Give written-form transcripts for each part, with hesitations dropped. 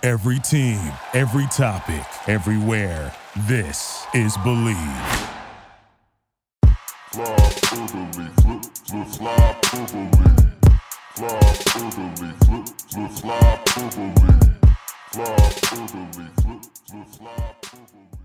Every team, every topic, everywhere. This is Believe. Fly through the leaf, flip, fly through the leaf. Fly through the leaf, flip, fly through the leaf. Fly through the leaf, flip, fly through the leaf.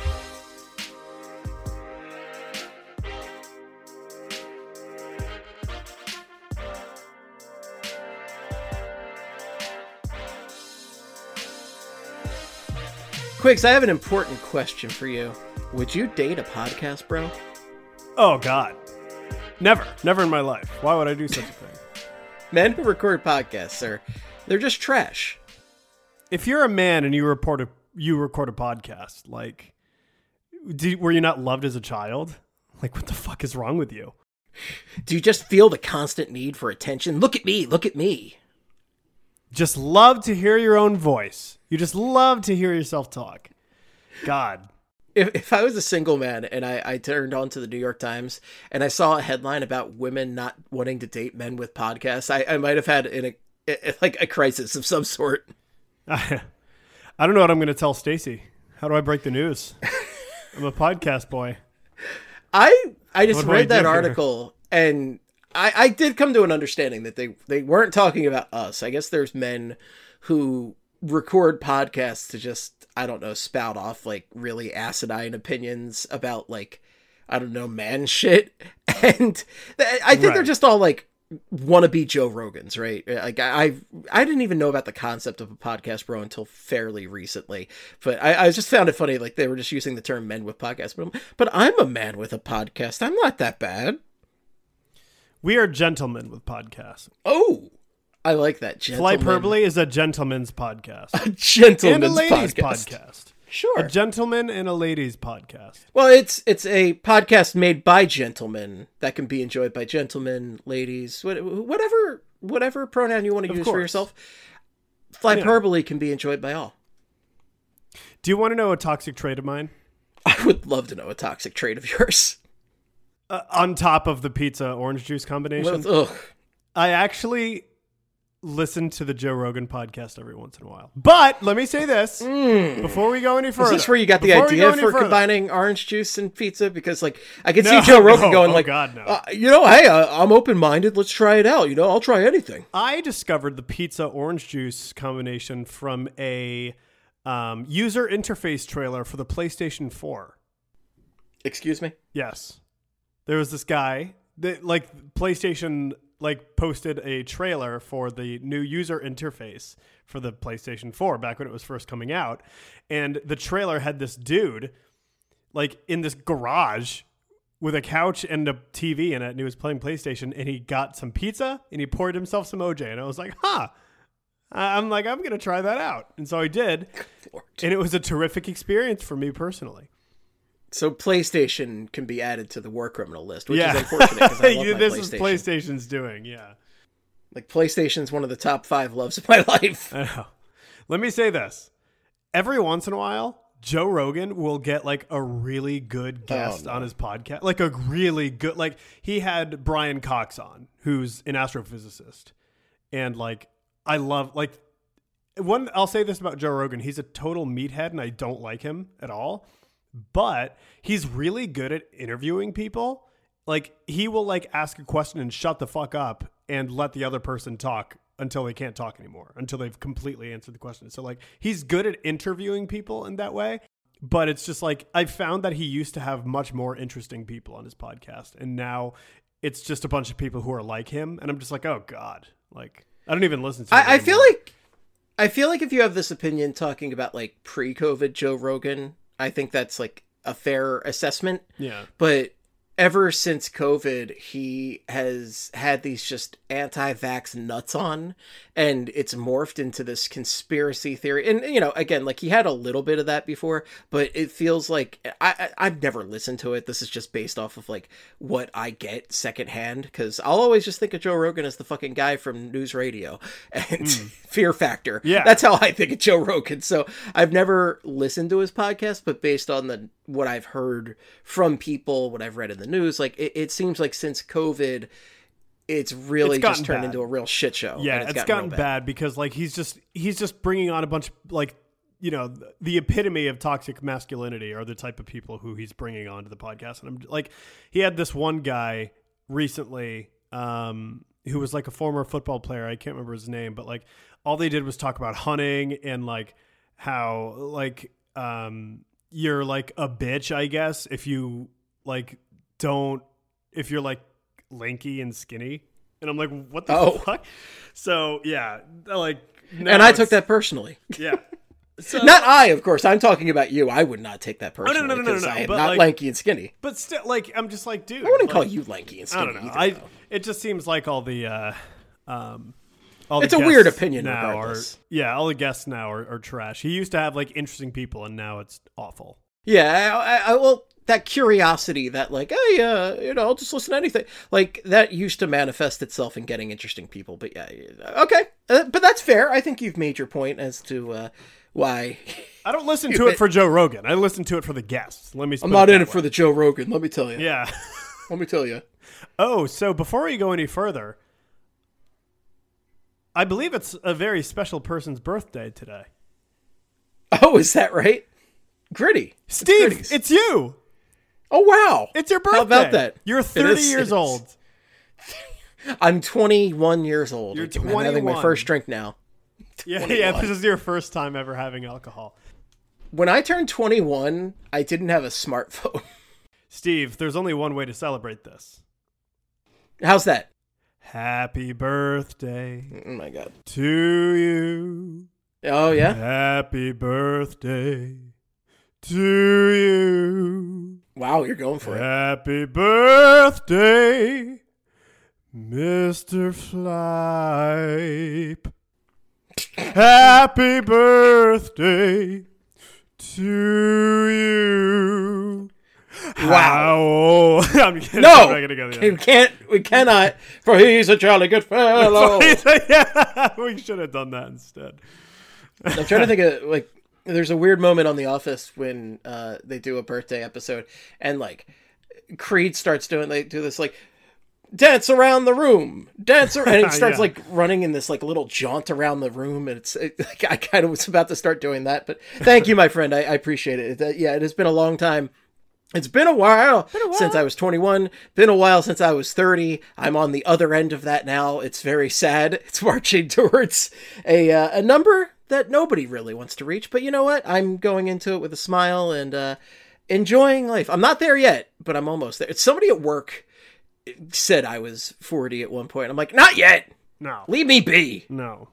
Quiggs, I have an important question for you. Would you date a podcast bro? Oh, God. Never. Never in my life. Why would I do such a thing? Men who record podcasts, they're just trash. If you're a man and you record a podcast, like, were you not loved as a child? Like, what the fuck is wrong with you? Do you just feel the constant need for attention? Look at me, look at me. Just love to hear your own voice. You just love to hear yourself talk. God. If I was a single man and I turned on to the New York Times and I saw a headline about women not wanting to date men with podcasts, I might have had a crisis of some sort. I don't know what I'm going to tell Stacy. How do I break the news? I'm a podcast boy. I just read that article and I did come to an understanding that they weren't talking about us. I guess there's men who record podcasts to just, I don't know, spout off like really asinine opinions about like, I don't know, man shit. And I think They're just all like wannabe Joe Rogans, right? Like I didn't even know about the concept of a podcast bro until fairly recently, but I just found it funny. Like they were just using the term men with podcasts, but I'm a man with a podcast. I'm not that bad. We are gentlemen with podcasts. Oh, I like that. Flyperbole is a gentleman's podcast. A gentleman's and a ladies' podcast. Sure. A gentleman and a ladies' podcast. Well, it's a podcast made by gentlemen that can be enjoyed by gentlemen, ladies, whatever pronoun you want to use for yourself. Flyperbole can be enjoyed by all. Do you want to know a toxic trait of mine? I would love to know a toxic trait of yours. On top of the pizza orange juice combination, I actually listen to the Joe Rogan podcast every once in a while. But let me say this before we go any further. Is this where you got the idea for combining orange juice and pizza? Because like I could see Joe Rogan going hey, I'm open-minded. Let's try it out. I'll try anything. I discovered the pizza orange juice combination from a user interface trailer for the PlayStation 4. Excuse me? Yes. There was this guy that PlayStation posted a trailer for the new user interface for the PlayStation 4 back when it was first coming out. And the trailer had this dude in this garage with a couch and a TV in it. And he was playing PlayStation and he got some pizza and he poured himself some OJ. And I was like, I'm going to try that out. And so I did. And it was a terrific experience for me personally. So PlayStation can be added to the war criminal list, which is unfortunate because I love my this PlayStation. is PlayStation's doing, yeah. Like PlayStation's one of the top 5 loves of my life. I know. Let me say this. Every once in a while, Joe Rogan will get a really good guest on his podcast. Like a really good, he had Brian Cox on, who's an astrophysicist. And I love, I'll say this about Joe Rogan. He's a total meathead and I don't like him at all. But he's really good at interviewing people. He will ask a question and shut the fuck up and let the other person talk until they can't talk anymore, until they've completely answered the question. So he's good at interviewing people in that way. But it's just I found that he used to have much more interesting people on his podcast. And now it's just a bunch of people who are like him. And I'm just oh God, I don't even listen to him I feel like if you have this opinion talking about pre-COVID Joe Rogan, I think that's a fair assessment. Yeah. But ever since COVID, he has had these just anti-vax nuts on, and it's morphed into this conspiracy theory. And, again, he had a little bit of that before, but it feels like I've never listened to it. This is just based off of what I get secondhand, because I'll always just think of Joe Rogan as the fucking guy from News Radio and Fear Factor. Yeah. That's how I think of Joe Rogan. So I've never listened to his podcast, but based on what I've heard from people, what I've read in the news, it seems like since COVID, it's really It's just turned bad. into a real shit show. Yeah, and it's gotten bad because like he's just bringing on a bunch of like, you know, the epitome of toxic masculinity are the type of people who he's bringing onto the podcast. And I'm like, he had this one guy recently who was like a former football player. I can't remember his name, but like all they did was talk about hunting and like how like you're like a bitch, I guess, if you like if you're like lanky and skinny. And I'm like, what the fuck? So yeah, like, and I took that personally. Yeah. So, not I, of course. I'm talking about you. I would not take that personally. No. I am but not like, lanky and skinny. But still, like, I'm just like, dude. I wouldn't like, call you lanky and skinny. I don't know. Either, It just seems like all the it's a weird opinion now regardless. All the guests now are trash. He used to have like interesting people, and now it's awful. Yeah, I well, that curiosity, that like, hey, I'll just listen to anything. Like that used to manifest itself in getting interesting people. But yeah, okay, but that's fair. I think you've made your point as to why. I don't listen to it for Joe Rogan. I listen to it for the guests. I'm not in it for the Joe Rogan. Let me tell you. Yeah. Let me tell you. Oh, so before we go any further, I believe it's a very special person's birthday today. Oh, is that right? Gritty. Steve, it's you. Oh, wow. It's your birthday. How about that? You're 30 years old. I'm 21 years old. You're I'm having my first drink now. Yeah, this is your first time ever having alcohol. When I turned 21, I didn't have a smartphone. Steve, there's only one way to celebrate this. How's that? Happy birthday Oh, my God. to you. Oh, yeah? Happy birthday to you. Wow, you're going for it. Happy birthday, Mr. Flipe. Happy birthday to you. Wow. I'm kidding. No, I'm not gonna go there. we cannot, for he's a jolly good fellow. Yeah, we should have done that instead. I'm trying to think of, like, there's a weird moment on The Office when they do a birthday episode, and, like, Creed they do this, like, dance around the room, and it starts, Yeah. like, running in this, like, little jaunt around the room, and like, I kind of was about to start doing that, but thank you, my friend, I appreciate it. It has been a long time. It's been a while since I was 21, been a while since I was 30. I'm on the other end of that now. It's very sad. It's marching towards a number that nobody really wants to reach. But you know what? I'm going into it with a smile and enjoying life. I'm not there yet, but I'm almost there. Somebody at work said I was 40 at one point. I'm like, not yet. No. Leave me be. No.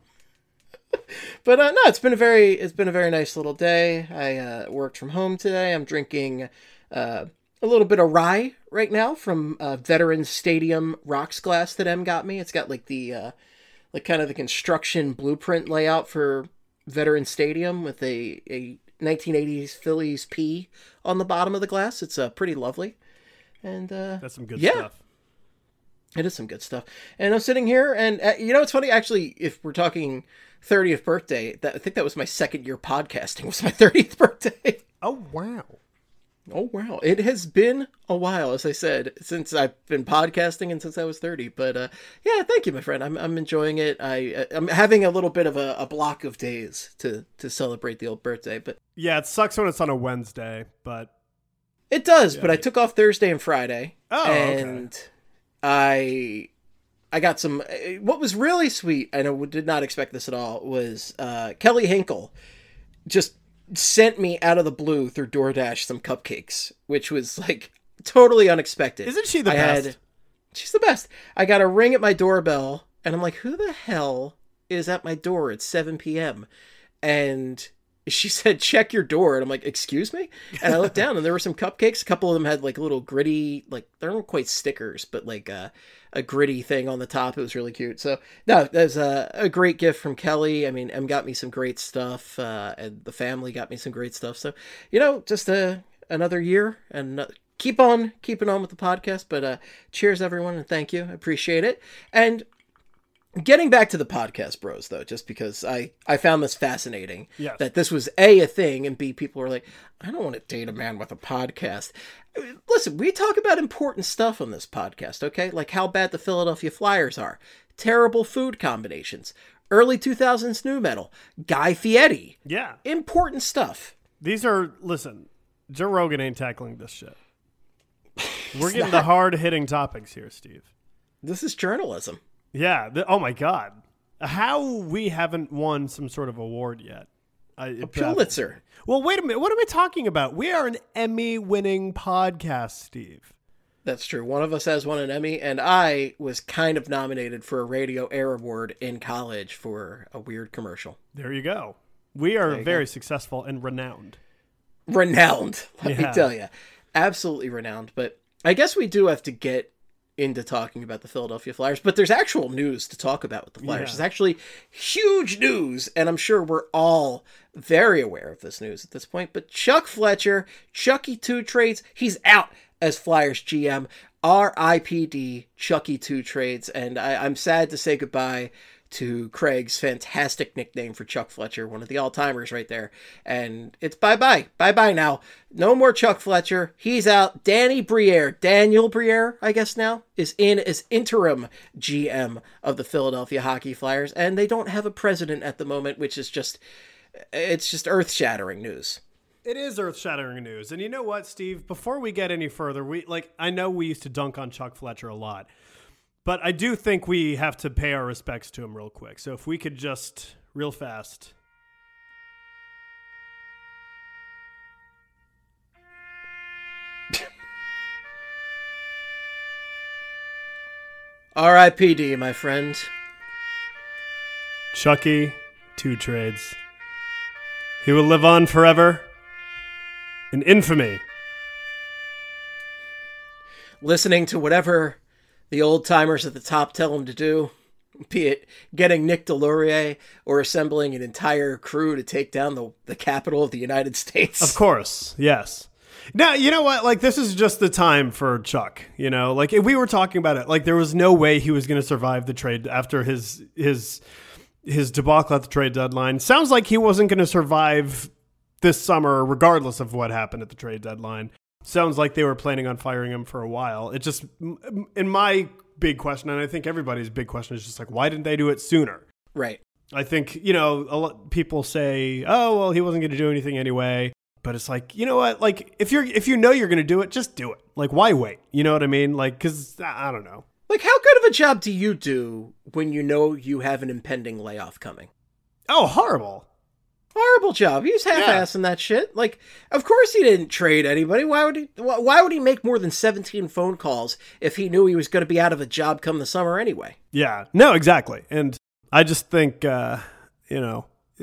But no, it's been a very nice little day. I worked from home today. I'm drinking a little bit of rye right now from Veterans Stadium rocks glass that Em got me. It's got like the like kind of the construction blueprint layout for Veterans Stadium with a 1980s Phillies P on the bottom of the glass. It's pretty lovely. And That's some good stuff. It is some good stuff. And I'm sitting here and you know, it's funny actually, if we're talking 30th birthday, I think that was my second year podcasting, was my 30th birthday. Oh, wow. Oh, wow. It has been a while, as I said, since I've been podcasting and since I was 30. But yeah, thank you, my friend. I'm enjoying it. I'm having a little bit of a block of days to celebrate the old birthday. But Yeah, it sucks when it's on a Wednesday, but... It does, but I took off Thursday and Friday. Oh, and I got some... What was really sweet, I did not expect this at all, was Kelly Hinkle just sent me out of the blue through DoorDash some cupcakes, which was like totally unexpected. Isn't she the best? She's the best. I got a ring at my doorbell and I'm like, who the hell is at my door at 7 p.m.? And she said, check your door. And I'm like, excuse me? And I looked down and there were some cupcakes. A couple of them had like little gritty, like they weren't quite stickers, but like a gritty thing on the top. It was really cute. So no, there's a great gift from Kelly. I mean, Em got me some great stuff, and the family got me some great stuff. So, you know, just another year and keep on keeping on with the podcast. But cheers, everyone, and thank you. I appreciate it. And Getting back to the podcast bros, though, just because I found this fascinating, Yes. that this was A, a thing, and B, people were like, I don't want to date a man with a podcast. Listen, we talk about important stuff on this podcast, okay? Like how bad the Philadelphia Flyers are, terrible food combinations, early 2000s nu metal, Guy Fieri. Yeah. Important stuff. These are, listen, Joe Rogan ain't tackling this shit. We're getting the hard-hitting topics here, Steve. This is journalism. Yeah. Oh, my God. How we haven't won some sort of award yet. A Pulitzer. Well, wait a minute. What am I talking about? We are an Emmy-winning podcast, Steve. That's true. One of us has won an Emmy, and I was kind of nominated for a Radio Air Award in college for a weird commercial. There you go. We are very successful and renowned. Renowned, let me tell you. Absolutely renowned. But I guess we do have to get into talking about the Philadelphia Flyers, but there's actual news to talk about with the Flyers. It's actually huge news, and I'm sure we're all very aware of this news at this point. But Chuck Fletcher, Chucky Two Trades, he's out as Flyers GM. RIPD Chucky Two Trades, and I'm sad to say goodbye to Craig's fantastic nickname for Chuck Fletcher, one of the all-timers right there. And it's bye-bye. Bye-bye now. No more Chuck Fletcher. He's out. Danny Briere, Daniel Briere, I guess now, is in as interim GM of the Philadelphia Hockey Flyers, and they don't have a president at the moment, which is just, it's just earth-shattering news. It is earth-shattering news. And you know what, Steve? Before we get any further, I know we used to dunk on Chuck Fletcher a lot, but I do think we have to pay our respects to him real quick. So if we could just, real fast. R.I.P.D., my friend. Chucky Two Trades. He will live on forever in infamy. Listening to whatever the old-timers at the top tell him to do, be it getting Nick Delorier or assembling an entire crew to take down the capital of the United States. Of course, yes. Now, you know what? Like, this is just the time for Chuck, you know? Like, if we were talking about it, like, there was no way he was going to survive the trade after his debacle at the trade deadline. Sounds like he wasn't going to survive this summer, regardless of what happened at the trade deadline. Sounds like they were planning on firing him for a while. It just, in my big question, and I think everybody's big question is just like, why didn't they do it sooner? Right. I think, you know, a lot people say, oh, well, he wasn't going to do anything anyway. But it's like, you know what? Like, if you know you're going to do it, just do it. Like, why wait? You know what I mean? Like, because I don't know. Like, how good of a job do you do when you know you have an impending layoff coming? Oh, horrible. Horrible job. He was half-assing that shit. Like, of course he didn't trade anybody. Why would he make more than 17 phone calls if he knew he was going to be out of a job come the summer anyway? Yeah. No, exactly. And I just think, you know,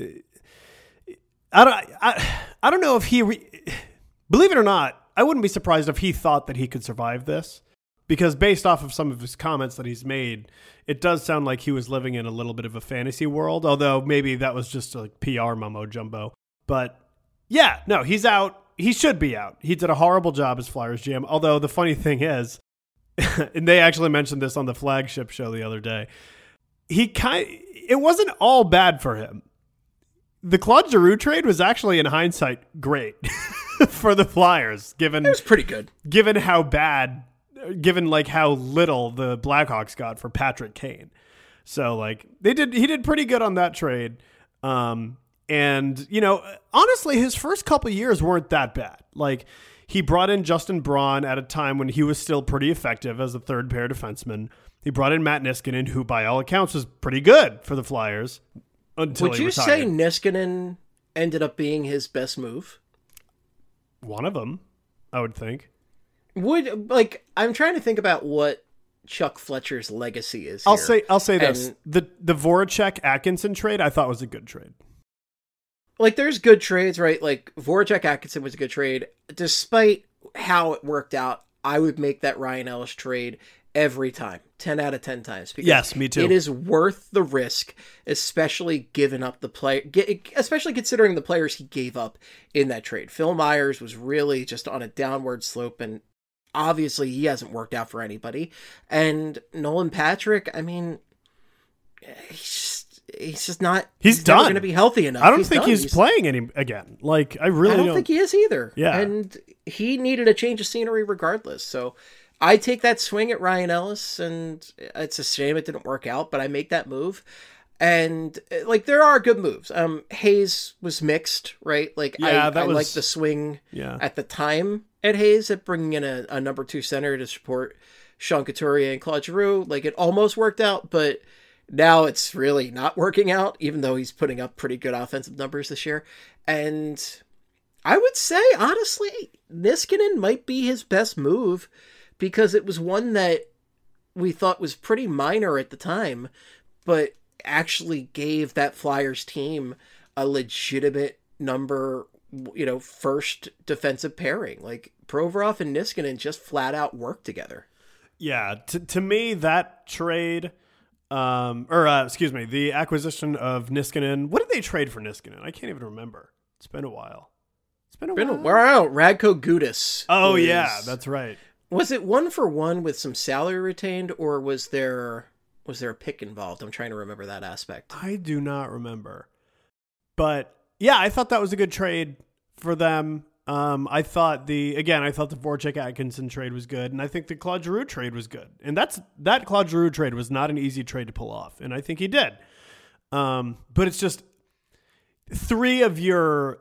I don't know if he, believe it or not, I wouldn't be surprised if he thought that he could survive this, because based off of some of his comments that he's made, it does sound like he was living in a little bit of a fantasy world, although maybe that was just like PR mumbo jumbo. But yeah, no, he's out. He should be out. He did a horrible job as Flyers GM. Although the funny thing is, and they actually mentioned this on the flagship show the other day, it wasn't all bad for him. The Claude Giroux trade was actually, in hindsight, great for the Flyers, given it was pretty good. Given how bad, given like how little the Blackhawks got for Patrick Kane. So like he did pretty good on that trade. And you know, honestly, his first couple of years weren't that bad. Like, he brought in Justin Braun at a time when he was still pretty effective as a third pair defenseman. He brought in Matt Niskanen, who by all accounts was pretty good for the Flyers. Would you say Niskanen ended up being his best move? One of them, I would think. I'm trying to think about what Chuck Fletcher's legacy is. I'll say this: the Voracek Atkinson trade I thought was a good trade. Like, there's good trades, right? Like, Voracek Atkinson was a good trade. Despite how it worked out, I would make that Ryan Ellis trade every time, 10 out of 10 times. Because yes, me too. It is worth the risk, especially giving up especially considering the players he gave up in that trade. Phil Myers was really just on a downward slope, and obviously he hasn't worked out for anybody. And Nolan Patrick, I mean, he's just not. He's done. Going to be healthy enough. I don't think he's playing any again. Like I don't think he is either. Yeah, and he needed a change of scenery regardless. So I take that swing at Ryan Ellis, and it's a shame it didn't work out, but I make that move. And like there are good moves. Hayes was mixed, right? Like I like the swing at the time at Hayes at bringing in a number 2 center to support Sean Couturier and Claude Giroux. Like it almost worked out, but now it's really not working out, even though he's putting up pretty good offensive numbers this year. And I would say, honestly, Niskanen might be his best move because it was one that we thought was pretty minor at the time, but actually gave that Flyers team a legitimate number, first defensive pairing. Like Provorov and Niskanen just flat out work together. Yeah, to me that trade, the acquisition of Niskanen. What did they trade for Niskanen? I can't even remember. It's been a while. Radko Gudas. Oh yeah, that's right. Was it 1-for-1 with some salary retained, or was there a pick involved? I'm trying to remember that aspect. I do not remember. But yeah, I thought that was a good trade for them. I thought the Voracek Atkinson trade was good, and I think the Claude Giroux trade was good. And that Claude Giroux trade was not an easy trade to pull off, and I think he did. But it's just 3 of your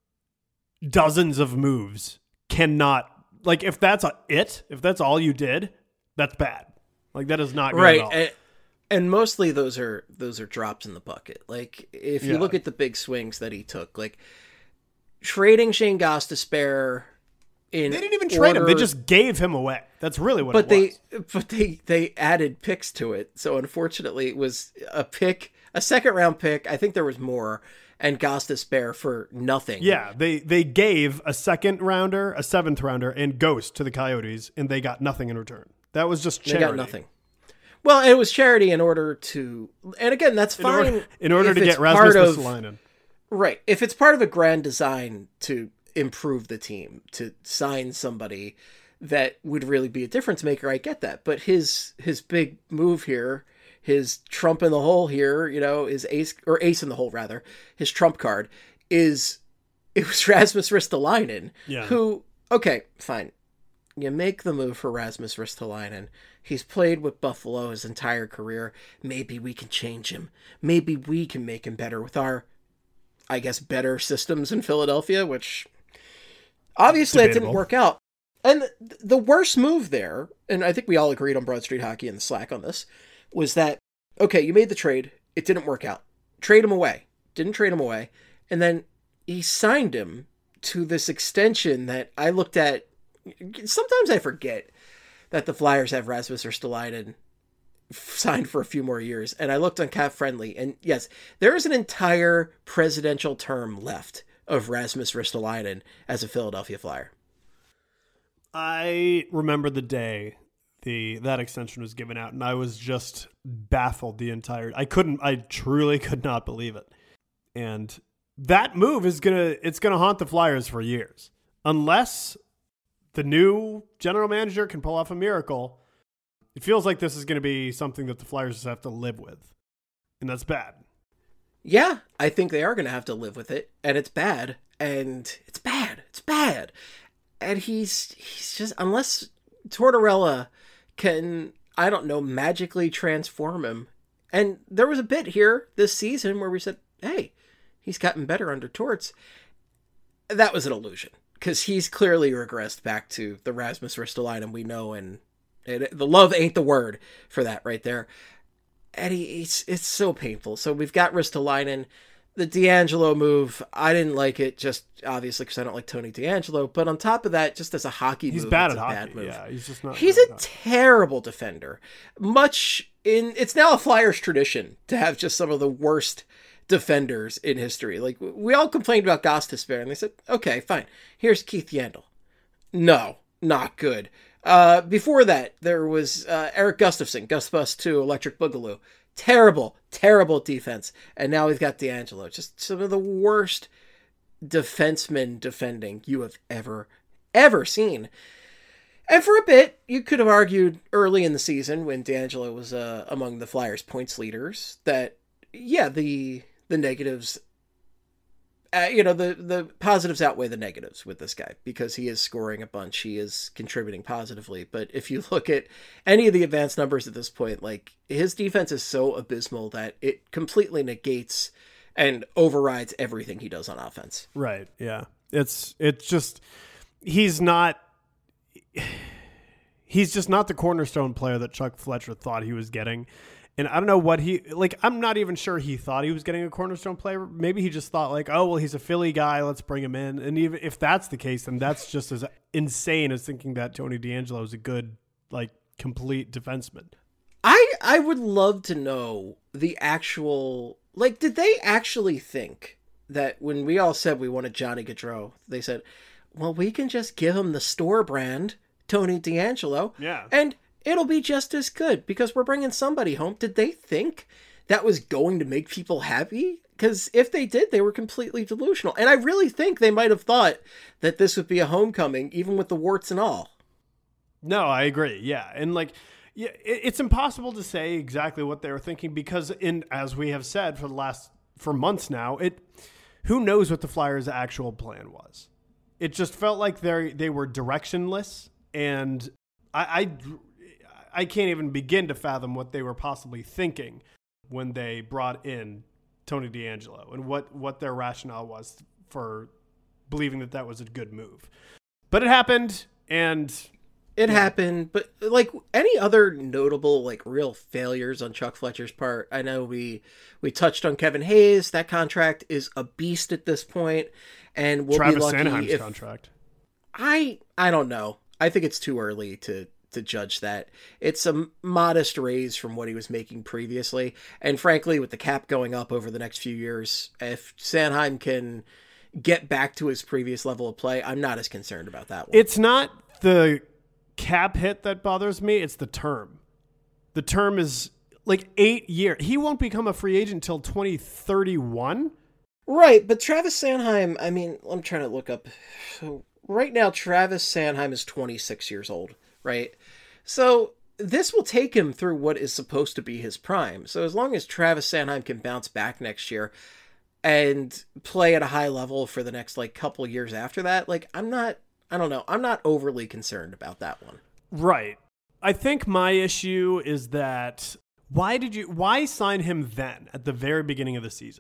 dozens of moves cannot, like, if that's all you did, that's bad. Like that is not good at all. And mostly those are drops in the bucket. Like if you look at the big swings that he took, like trading Shane Gostisbehere they didn't even trade him. They just gave him away. That's really what it was. But they added picks to it. So unfortunately it was a second round pick. I think there was more, and Gostisbehere for nothing. Yeah, they gave a second rounder, a 7th rounder, and Ghost to the Coyotes, and they got nothing in return. That was just charity. They got nothing. Well, it was charity in order to, and again, that's fine. In order to get Rasmus Ristolainen. Right. If it's part of a grand design to improve the team, to sign somebody that would really be a difference maker, I get that. But his big move here, his trump in the hole here, his ace in the hole rather, his trump card it was Rasmus Ristolainen, who, okay, fine. You make the move for Rasmus Ristolainen. He's played with Buffalo his entire career. Maybe we can change him. Maybe we can make him better with our, I guess, better systems in Philadelphia, which obviously it didn't work out. And the worst move there, and I think we all agreed on Broad Street Hockey in the Slack on this, was that, okay, you made the trade. It didn't work out. Trade him away. Didn't trade him away. And then he signed him to this extension that I looked at. Sometimes I forget that the Flyers have Rasmus Ristolainen signed for a few more years. And I looked on Cap Friendly, and yes, there is an entire presidential term left of Rasmus Ristolainen as a Philadelphia Flyer. I remember the day that extension was given out, and I was just baffled I truly could not believe it. And that move it's gonna haunt the Flyers for years. Unless the new general manager can pull off a miracle, it feels like this is going to be something that the Flyers just have to live with. And that's bad. Yeah, I think they are going to have to live with it. And it's bad. And it's bad. It's bad. And he's just, unless Tortorella can, I don't know, magically transform him. And there was a bit here this season where we said, hey, he's gotten better under Torts. That was an illusion. Because he's clearly regressed back to the Rasmus Ristolainen we know, and the love ain't the word for that right there. And it's so painful. So we've got Ristolainen. The D'Angelo move, I didn't like it, just obviously because I don't like Tony D'Angelo. But on top of that, just as a hockey move, it's bad at a hockey. Bad move. Yeah, he's just not. He's a terrible defender. It's now a Flyers tradition to have just some of the worst defenders in history. Like, we all complained about Gostisbehere, and they said, okay, fine, here's Keith Yandel. No, not good. Before that, there was Eric Gustafson, Gus Bus 2, Electric Boogaloo. Terrible defense. And now we've got D'Angelo. Just some of the worst defensemen defending you have ever seen. And for a bit, you could have argued early in the season when DeAngelo was among the Flyers' points leaders that, yeah, the negatives, the positives outweigh the negatives with this guy because he is scoring a bunch. He is contributing positively. But if you look at any of the advanced numbers at this point, like his defense is so abysmal that it completely negates and overrides everything he does on offense. Right. Yeah. It's just, he's just not the cornerstone player that Chuck Fletcher thought he was getting. And I don't know what I'm not even sure he thought he was getting a cornerstone player. Maybe he just thought like, oh, well, he's a Philly guy. Let's bring him in. And even if that's the case, then that's just as insane as thinking that Tony DeAngelo is a good, like, complete defenseman. I would love to know the actual, like, did they actually think that when we all said we wanted Johnny Gaudreau, they said, well, we can just give him the store brand Tony DeAngelo. Yeah. And it'll be just as good because we're bringing somebody home. Did they think that was going to make people happy? Because if they did, they were completely delusional. And I really think they might have thought that this would be a homecoming, even with the warts and all. No, I agree. Yeah. And like, yeah, it's impossible to say exactly what they were thinking because as we have said for months now, who knows what the Flyers' actual plan was. It just felt like they were directionless, and I can't even begin to fathom what they were possibly thinking when they brought in Tony DeAngelo and what their rationale was for believing that was a good move. But it happened, and it happened. But like any other notable, like real failures on Chuck Fletcher's part, I know we touched on Kevin Hayes. That contract is a beast at this point, and we'll Travis be lucky Sanheim's if contract. I don't know. I think it's too early to judge that. It's a modest raise from what he was making previously. And frankly, with the cap going up over the next few years, if Sanheim can get back to his previous level of play, I'm not as concerned about that one. It's not the cap hit that bothers me. It's the term. The term is like 8 years. He won't become a free agent until 2031. Right. But Travis Sanheim, I mean, I'm trying to look up. So right now, Travis Sanheim is 26 years old. Right. So this will take him through what is supposed to be his prime. So as long as Travis Sanheim can bounce back next year and play at a high level for the next like couple years after that, like I'm not overly concerned about that one. Right. I think my issue is that why sign him then at the very beginning of the season?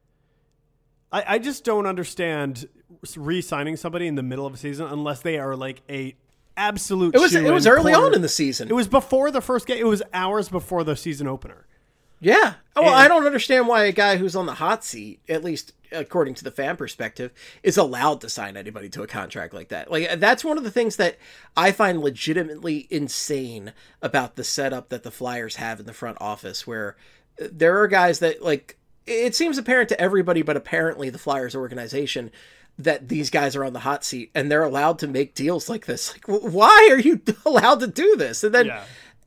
I just don't understand re-signing somebody in the middle of a season unless they are like a absolute. It was early on in the season. It was before the first game. It was hours before the season opener. Yeah. Well, I don't understand why a guy who's on the hot seat, at least according to the fan perspective, is allowed to sign anybody to a contract like that. Like that's one of the things that I find legitimately insane about the setup that the Flyers have in the front office, where there are guys that like it seems apparent to everybody, but apparently the Flyers organization, that these guys are on the hot seat and they're allowed to make deals like this. Like, why are you allowed to do this? And then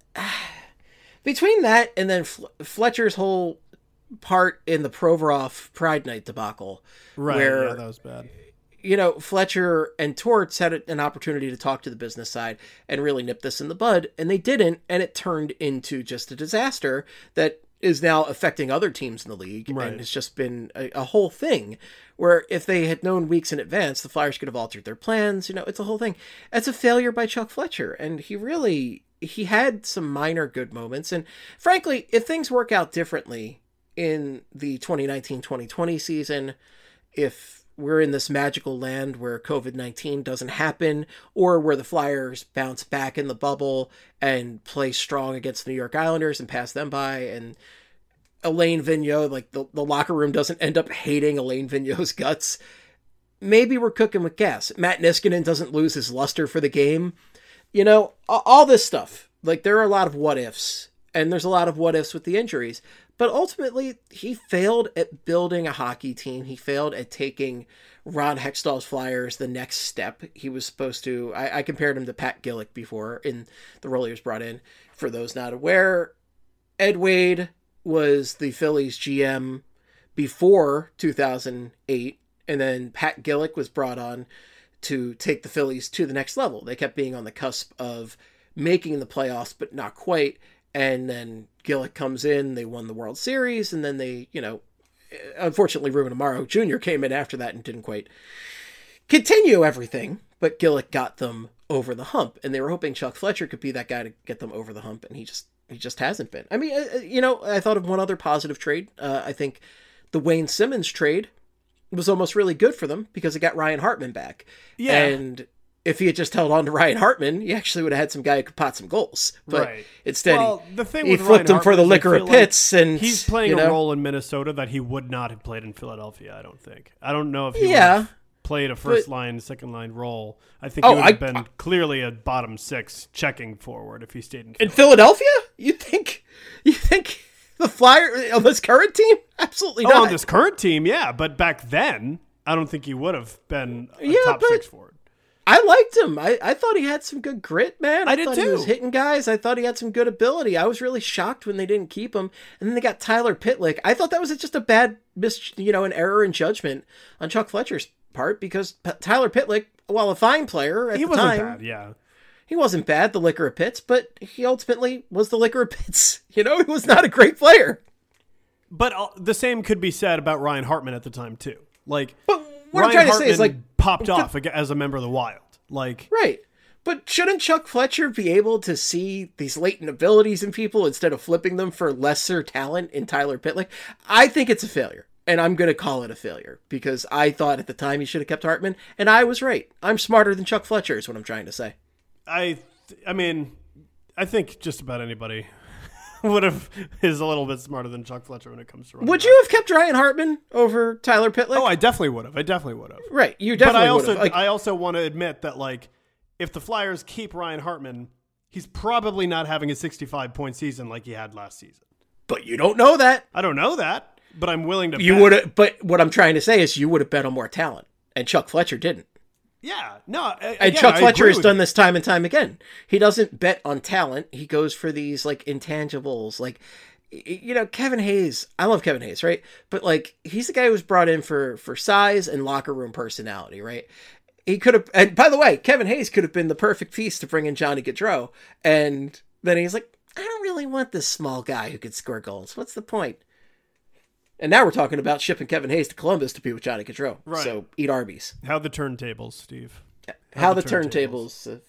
between that and then Fletcher's whole part in the Provorov Pride Night debacle, right? Where, that was bad. You know, Fletcher and Torts had an opportunity to talk to the business side and really nip this in the bud, and they didn't, and it turned into just a disaster that is now affecting other teams in the league, right. And it's just been a whole thing where if they had known weeks in advance, the Flyers could have altered their plans. You know, it's a whole thing. It's a failure by Chuck Fletcher, and he had some minor good moments. And frankly, if things work out differently in the 2019-2020 season, if we're in this magical land where COVID-19 doesn't happen, or where the Flyers bounce back in the bubble and play strong against the New York Islanders and pass them by, and Alain Vigneault, like the locker room doesn't end up hating Alain Vigneault's guts, maybe we're cooking with gas. Matt Niskanen doesn't lose his luster for the game. You know, all this stuff. Like, there are a lot of what ifs, and there's a lot of what ifs with the injuries. But ultimately, he failed at building a hockey team. He failed at taking Ron Hextall's Flyers the next step. He was supposed to... I compared him to Pat Gillick before in the role he was brought in. For those not aware, Ed Wade was the Phillies GM before 2008, and then Pat Gillick was brought on to take the Phillies to the next level. They kept being on the cusp of making the playoffs, but not quite. And then Gillick comes in, they won the World Series, and then they, unfortunately, Ruben Amaro Jr. came in after that and didn't quite continue everything, but Gillick got them over the hump, and they were hoping Chuck Fletcher could be that guy to get them over the hump, and he just hasn't been. I mean, I thought of one other positive trade. I think the Wayne Simmons trade was almost really good for them because it got Ryan Hartman back. Yeah. And if he had just held on to Ryan Hartman, he actually would have had some guy who could pot some goals. But instead, he flipped him for the liquor of Pitts. And he's playing a role in Minnesota that he would not have played in Philadelphia, I don't think. I don't know if he would have played a first-line, second-line role. I think he would have been clearly a bottom six checking forward if he stayed in Philly. In Philadelphia? You think the Flyers on this current team? Absolutely not. On this current team, yeah. But back then, I don't think he would have been a top six forward. I liked him. I thought he had some good grit, man. I did thought too. He was hitting guys. I thought he had some good ability. I was really shocked when they didn't keep him. And then they got Tyler Pitlick. I thought that was just a bad an error in judgment on Chuck Fletcher's part because Tyler Pitlick, while a fine player at the time, wasn't bad. Yeah, he wasn't bad. The liquor of Pitts, but he ultimately was the liquor of Pitts. He was not a great player. But the same could be said about Ryan Hartman at the time too. But what Ryan I'm trying Hartman to say is popped off as a member of the Wild. Right. But shouldn't Chuck Fletcher be able to see these latent abilities in people instead of flipping them for lesser talent in Tyler Pitlick? I think it's a failure, and I'm going to call it a failure because I thought at the time he should have kept Hartman, and I was right. I'm smarter than Chuck Fletcher is what I'm trying to say. I think just about anybody is a little bit smarter than Chuck Fletcher when it comes to running. Would you have kept Ryan Hartman over Tyler Pitlick? Oh, I definitely would have. Right, you definitely would have. But I also want to admit that, if the Flyers keep Ryan Hartman, he's probably not having a 65-point season like he had last season. But you don't know that. I don't know that, but I'm willing to You would have. But what I'm trying to say is you would have bet on more talent, and Chuck Fletcher didn't. Yeah, no. And Chuck Fletcher has done this time and time again. He doesn't bet on talent. He goes for these intangibles, Kevin Hayes. I love Kevin Hayes, right? But he's the guy who was brought in for size and locker room personality, right? He could have, and by the way, Kevin Hayes could have been the perfect piece to bring in Johnny Gaudreau. And then he's like, I don't really want this small guy who could score goals. What's the point? And now we're talking about shipping Kevin Hayes to Columbus to be with Johnny Gaudreau. Right. So eat Arby's. How the turntables, Steve. How the turntables.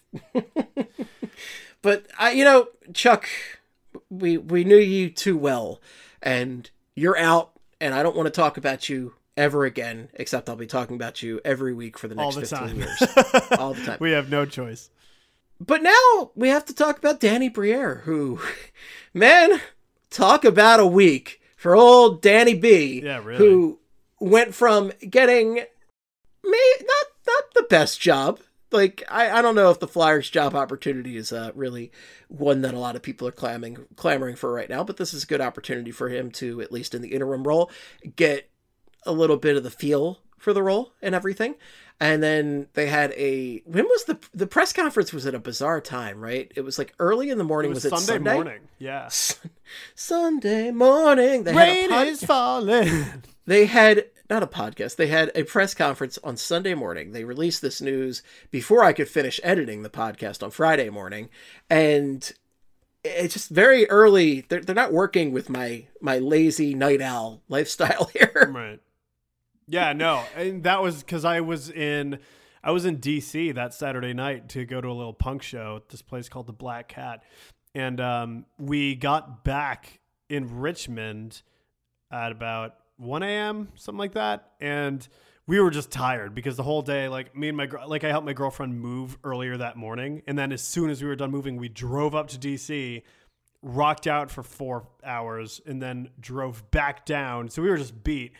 But Chuck, we knew you too well, and you're out. And I don't want to talk about you ever again, except I'll be talking about you every week for the next 15 years. All the time. We have no choice. But now we have to talk about Danny Briere, who, man, talk about a week. For old Danny B, really. Who went from getting not the best job. I don't know if the Flyers job opportunity is really one that a lot of people are clamoring for right now, but this is a good opportunity for him to, at least in the interim role, get a little bit of the feel for the role and everything. And then they had when was the press conference was at a bizarre time, right? It was early in the morning. Was it Sunday morning? Yeah. Sunday morning. Rain is falling. They had not a podcast. They had a press conference on Sunday morning. They released this news before I could finish editing the podcast on Friday morning. And it's just very early. They're not working with my lazy night owl lifestyle here. Right. Yeah, no, and that was because I was in DC that Saturday night to go to a little punk show at this place called the Black Cat, and we got back in Richmond at about 1 a.m. something like that, and we were just tired because the whole day, me and I helped my girlfriend move earlier that morning, and then as soon as we were done moving, we drove up to DC, rocked out for 4 hours, and then drove back down. So we were just beat.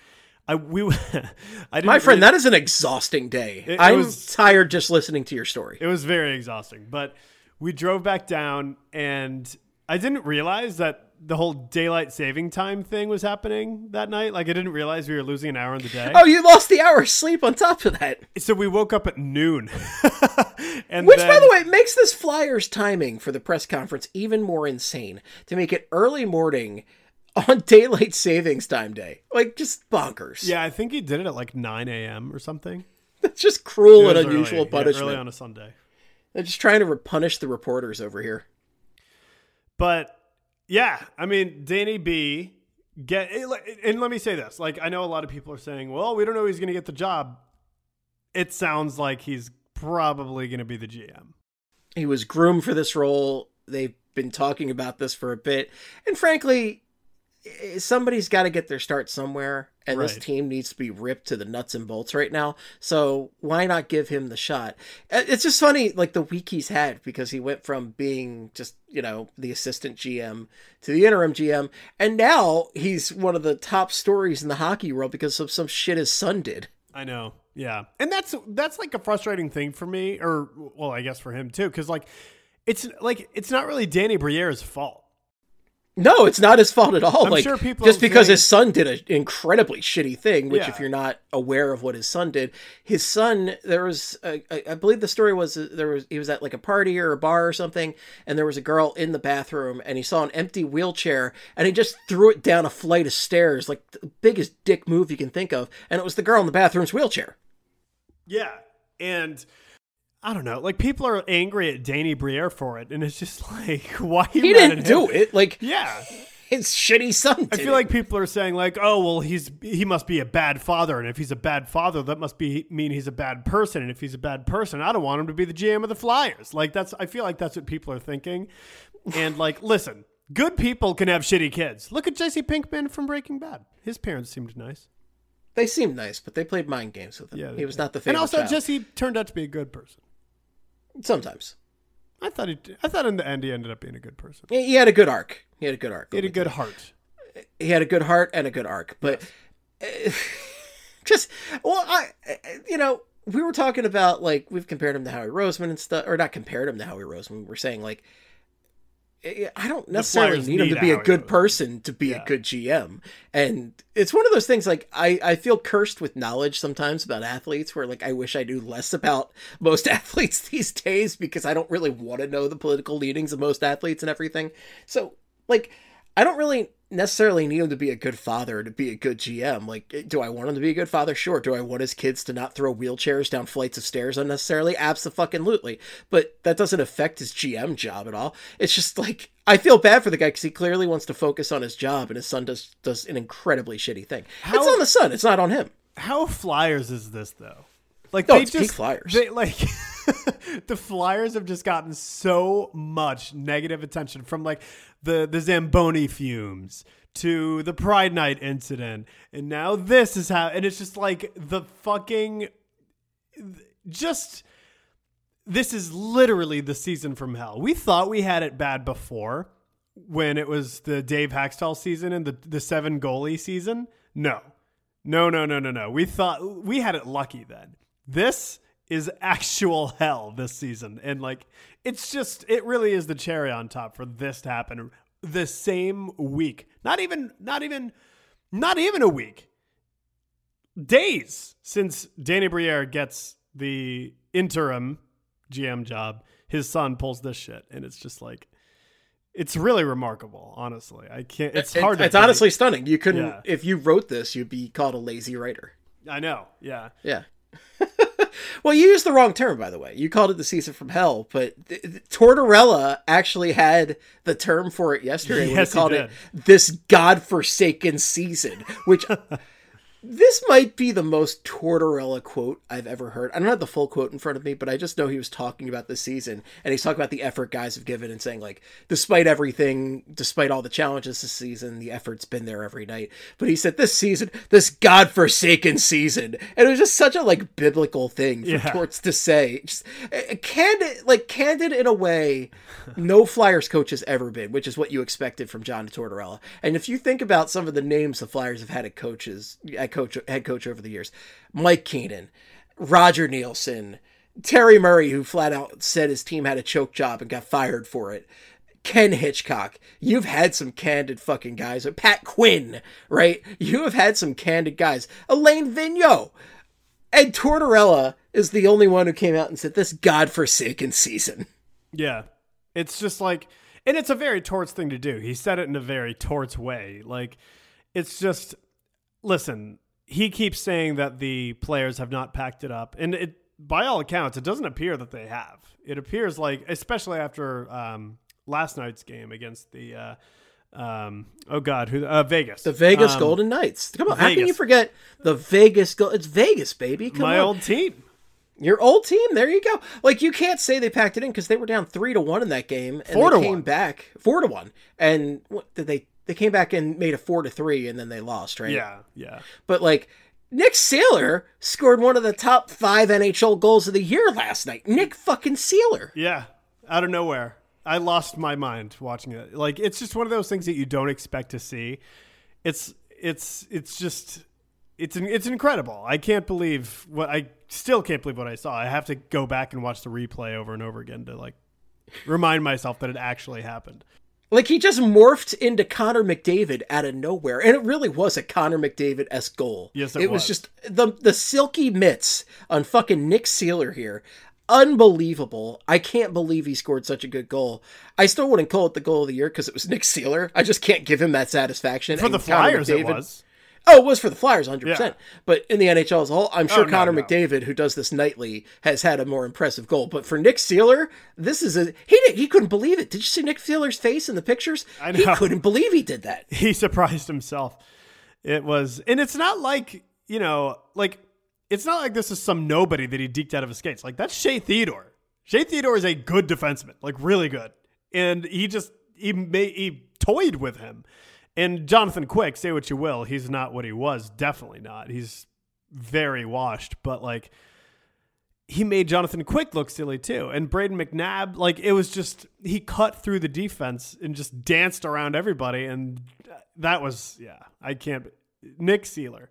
My friend, that is an exhausting day. I'm tired just listening to your story. It was very exhausting, but we drove back down, and I didn't realize that the whole daylight saving time thing was happening that night. I didn't realize we were losing an hour in the day. Oh, you lost the hour of sleep on top of that. So we woke up at noon. Which, by the way, makes this Flyers timing for the press conference even more insane. To make it early morning on daylight savings time day. Just bonkers. Yeah, I think he did it at 9 a.m. or something. That's just cruel and unusual punishment. Early on a Sunday. They're just trying to punish the reporters over here. But yeah, I mean, Danny B and let me say this. Like, I know a lot of people are saying, well, we don't know he's going to get the job. It sounds like he's probably going to be the GM. He was groomed for this role. They've been talking about this for a bit. And frankly, somebody's got to get their start somewhere. And This team needs to be ripped to the nuts and bolts right now. So why not give him the shot? It's just funny, like the week he's had, because he went from being just, the assistant GM to the interim GM. And now he's one of the top stories in the hockey world because of some shit his son did. I know. Yeah. And that's like a frustrating thing for me, or, well, I guess for him too. Cause it's not really Danny Briere's fault. No, it's not his fault at all. I'm sure people just because his son did an incredibly shitty thing, which if you're not aware of what his son did, his son, there was, I believe the story was he was at like a party or a bar or something, and there was a girl in the bathroom, and he saw an empty wheelchair, and he just threw it down a flight of stairs, like the biggest dick move you can think of, and it was the girl in the bathroom's wheelchair. Yeah, and I don't know, like people are angry at Danny Briere for it, and it's just like, why are you He mad didn't at do him? it. Like, yeah, his shitty son did I feel like people are saying like, oh, well, he must be a bad father, and if he's a bad father, that must mean he's a bad person, and if he's a bad person, I don't want him to be the GM of the Flyers. Like I feel like that's what people are thinking, and like, listen, good people can have shitty kids. Look at Jesse Pinkman from Breaking Bad. His parents seemed nice. They seemed nice, but they played mind games with him. Yeah, he was not the favorite And also, child. Jesse turned out to be a good person. Sometimes. I thought in the end he ended up being a good person. He had a good arc. He had a good heart. He had a good heart and a good arc. But we were talking about, like, we've compared him to Howie Roseman and stuff, or not compared him to Howie Roseman. We're saying, like, I don't necessarily need him to be a good person to be a good GM. And it's one of those things, like, I feel cursed with knowledge sometimes about athletes where, like, I wish I knew less about most athletes these days because I don't really want to know the political leanings of most athletes and everything. So, like, I don't really necessarily need him to be a good father to be a good GM. Like, do I want him to be a good father? Sure. Do I want his kids to not throw wheelchairs down flights of stairs unnecessarily? Abso-fucking-lutely. But that doesn't affect his GM job at all. It's just like, I feel bad for the guy because he clearly wants to focus on his job, and his son does an incredibly shitty thing. It's on the son. It's not on him. How Flyers is this though? Like, it's peak Flyers. The Flyers have just gotten so much negative attention from like the Zamboni fumes to the Pride Night incident, and now this is how, and it's just like the fucking this is literally the season from hell. We thought we had it bad before when it was the Dave Haxtell season and the 7 goalie season. No. We thought we had it lucky then. This is actual hell this season. And like, it really is the cherry on top for this to happen the same week. Not even a week. Days since Danny Briere gets the interim GM job, his son pulls this shit. And it's just like, it's really remarkable, honestly. I can't, it's hard to It's honestly stunning. You couldn't, if you wrote this, you'd be called a lazy writer. I know. Yeah. Yeah. Well, you used the wrong term, by the way. You called it the season from hell, but Tortorella actually had the term for it yesterday. Yes, he called it this godforsaken season, which this might be the most Tortorella quote I've ever heard. I don't have the full quote in front of me, but I just know he was talking about this season, and he's talking about the effort guys have given and saying, like, despite everything, despite all the challenges this season, the effort's been there every night. But he said this season, this godforsaken season, and it was just such a, like, biblical thing for Torts to say. Just candid in a way no Flyers coach has ever been, which is what you expected from John Tortorella. And if you think about some of the names the Flyers have had head coach over the years, Mike Keenan, Roger Nielsen, Terry Murray, who flat out said his team had a choke job and got fired for it, Ken Hitchcock. You've had some candid fucking guys. Pat Quinn, right? You have had some candid guys. Alain Vigneault. And Tortorella is the only one who came out and said this godforsaken season. Yeah. It's just like, and it's a very Torts thing to do. He said it in a very Torts way. Like, it's just, listen, he keeps saying that the players have not packed it up. And by all accounts, it doesn't appear that they have. It appears like, especially after last night's game against the Vegas. The Vegas Golden Knights. Come on, Vegas. How can you forget the Vegas? It's Vegas, baby. Come My on. old team. Your old team. There you go. Like, you can't say they packed it in because they were down 3-1 in that game, and they came back 4-1. And what did they? They came back and made a 4-3, and then they lost, right? Yeah. But like, Nick Seeler scored one of the top 5 NHL goals of the year last night. Nick fucking Seeler. Yeah, out of nowhere. I lost my mind watching it. Like, it's just one of those things that you don't expect to see. It's incredible. I still can't believe what I saw. I have to go back and watch the replay over and over again to like remind myself that it actually happened. Like, he just morphed into Connor McDavid out of nowhere. And it really was a Connor McDavid-esque goal. Yes, it was just the silky mitts on fucking Nick Seeler here. Unbelievable. I can't believe he scored such a good goal. I still wouldn't call it the goal of the year because it was Nick Seeler. I just can't give him that satisfaction. For the Flyers, it was. Oh, it was for the Flyers, 100%. Yeah. But in the NHL as a whole, I'm sure Connor McDavid, who does this nightly, has had a more impressive goal. But for Nick Seeler, this is he couldn't believe it. Did you see Nick Seeler's face in the pictures? I know. He couldn't believe he did that. He surprised himself. It was, and it's not like, it's not like this is some nobody that he deked out of his skates. Like, that's Shea Theodore. Shea Theodore is a good defenseman, like really good. And he toyed with him. And Jonathan Quick, say what you will, he's not what he was. Definitely not. He's very washed. But, like, he made Jonathan Quick look silly, too. And Braden McNabb, like, it was just, he cut through the defense and just danced around everybody. And that was, I can't. Nick Seeler.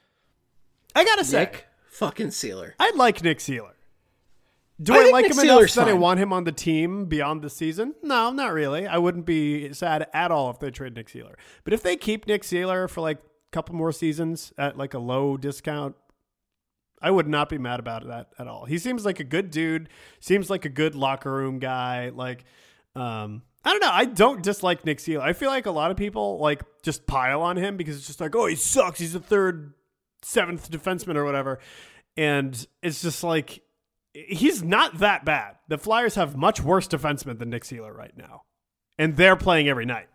I got to say. Nick fucking Seeler. I like Nick Seeler. Do I like him enough that I want him on the team beyond the season? No, not really. I wouldn't be sad at all if they trade Nick Seeler. But if they keep Nick Seeler for like a couple more seasons at like a low discount, I would not be mad about that at all. He seems like a good dude. Seems like a good locker room guy. Like, I don't know. I don't dislike Nick Seeler. I feel like a lot of people like just pile on him because it's just like, oh, he sucks. He's the 7th defenseman or whatever. And it's just like, he's not that bad. The Flyers have much worse defensemen than Nick Seeler right now. And they're playing every night.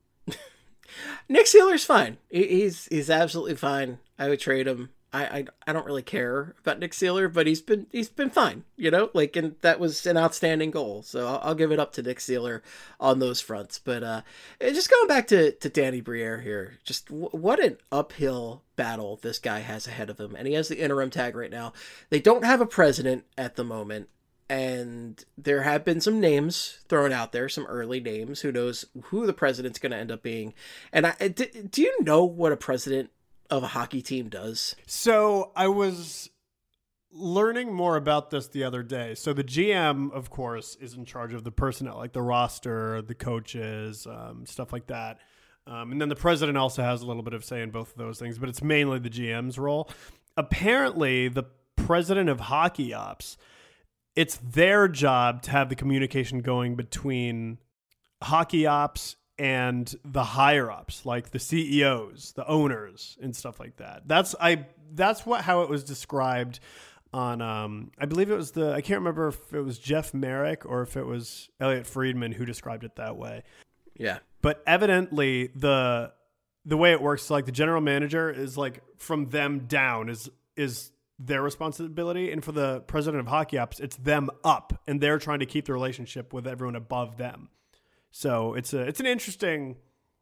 Nick Seeler's fine. He's absolutely fine. I would trade him. I don't really care about Nick Seeler, but he's been fine, and that was an outstanding goal. So I'll give it up to Nick Seeler on those fronts. But just going back to Danny Briere here, just what an uphill battle this guy has ahead of him. And he has the interim tag right now. They don't have a president at the moment. And there have been some names thrown out there, some early names. Who knows who the president's going to end up being. And do you know what a president of a hockey team does? So I was learning more about this the other day. So the GM, of course, is in charge of the personnel, like the roster, the coaches, stuff like that. And then the president also has a little bit of say in both of those things, but it's mainly the GM's role. Apparently, the president of hockey ops, it's their job to have the communication going between hockey ops and the higher ups, like the CEOs, the owners, and stuff like that. That's how it was described on. I believe it was I can't remember if it was Jeff Merrick or if it was Elliot Friedman who described it that way. Yeah, but evidently the way it works, like the general manager is like from them down is their responsibility, and for the president of hockey ops, it's them up, and they're trying to keep the relationship with everyone above them. So it's an interesting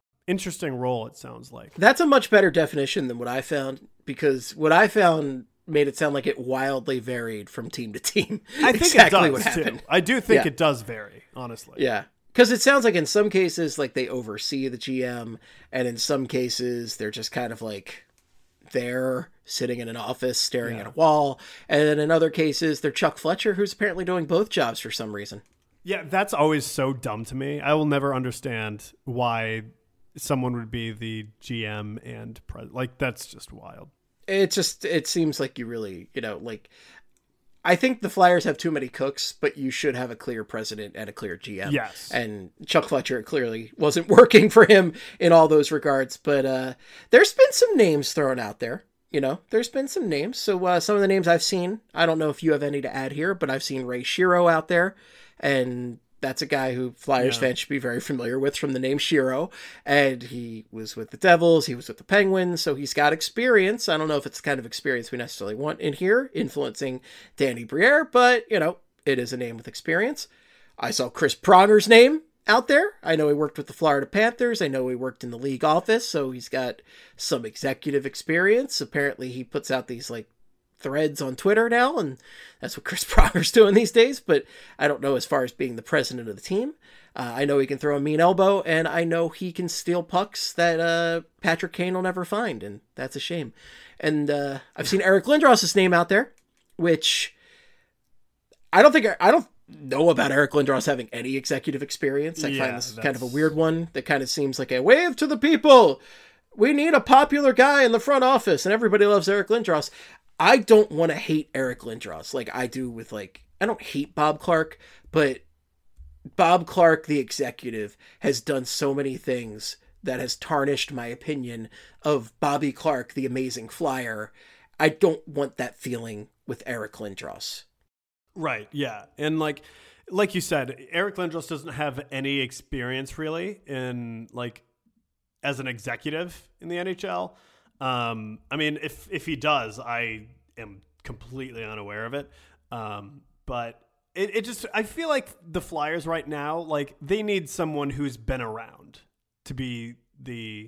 role, it sounds like. That's a much better definition than what I found, because what I found made it sound like it wildly varied from team to team. I think exactly it does, what happened. Too. I do think it does vary, honestly. Yeah. Because it sounds like in some cases, like they oversee the GM, and in some cases they're just kind of like there sitting in an office staring at a wall. And then in other cases, they're Chuck Fletcher, who's apparently doing both jobs for some reason. Yeah, that's always so dumb to me. I will never understand why someone would be the GM and like, that's just wild. It seems like you really, I think the Flyers have too many cooks, but you should have a clear president and a clear GM. Yes. And Chuck Fletcher clearly wasn't working for him in all those regards. But there's been some names thrown out there. there's been some names. So some of the names I've seen, I don't know if you have any to add here, but I've seen Ray Shero out there, and that's a guy who Flyers fans should be very familiar with from the name Shero. And he was with the Devils, he was with the Penguins, so he's got experience. I don't know if it's the kind of experience we necessarily want in here, influencing Danny Briere, but, it is a name with experience. I saw Chris Pronger's name out there. I know he worked with the Florida Panthers. I know he worked in the league office, so he's got some executive experience. Apparently he puts out these threads on Twitter now, and that's what Chris Pronger's doing these days, but I don't know as far as being the president of the team. I know he can throw a mean elbow, and I know he can steal pucks that Patrick Kane will never find, and that's a shame. And I've seen Eric Lindros' name out there, which I don't know about Eric Lindros having any executive experience. I find this kind of a weird one that kind of seems like a wave to the people. We need a popular guy in the front office, and everybody loves Eric Lindros. I don't want to hate Eric Lindros like I do with I don't hate Bob Clark, but Bob Clark, the executive, has done so many things that has tarnished my opinion of Bobby Clark, the amazing Flyer. I don't want that feeling with Eric Lindros. Right, yeah. And like you said, Eric Lindros doesn't have any experience really in as an executive in the NHL. I mean, if he does, I am completely unaware of it. But it just, I feel like the Flyers right now, they need someone who's been around to be the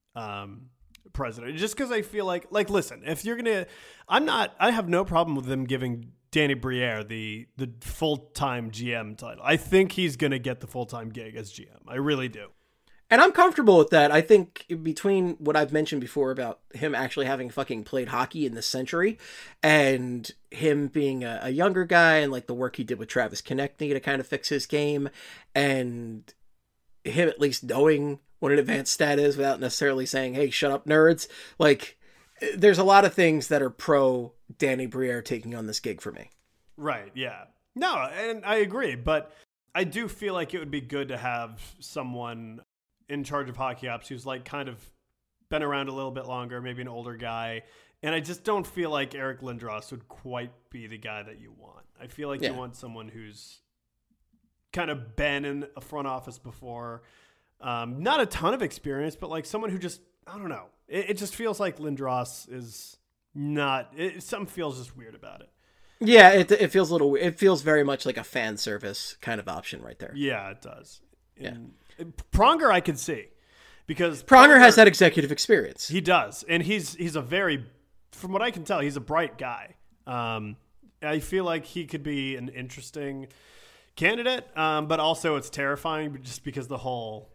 president. Just because I feel like, listen, if you're going to, I have no problem with them giving Danny Briere the full-time GM title. I think he's going to get the full-time gig as GM. I really do. And I'm comfortable with that. I think between what I've mentioned before about him actually having fucking played hockey in this century and him being a younger guy and the work he did with Travis Konechny to kind of fix his game and him at least knowing what an advanced stat is without necessarily saying, hey, shut up, nerds. There's a lot of things that are pro Danny Briere taking on this gig for me. Right, yeah. No, and I agree, but I do feel like it would be good to have someone in charge of hockey ops who's kind of been around a little bit longer, maybe an older guy. And I just don't feel like Eric Lindros would quite be the guy that you want. I feel like you want someone who's kind of been in a front office before. Not a ton of experience, but someone who just, I don't know. It just feels like Lindros is not, something feels just weird about it. Yeah, it feels a little weird. It feels very much like a fan service kind of option right there. Yeah, it does. Pronger I could see because Pronger has that executive experience. He does. And he's a very, from what I can tell, he's a bright guy. I feel like he could be an interesting candidate, but also it's terrifying just because the whole,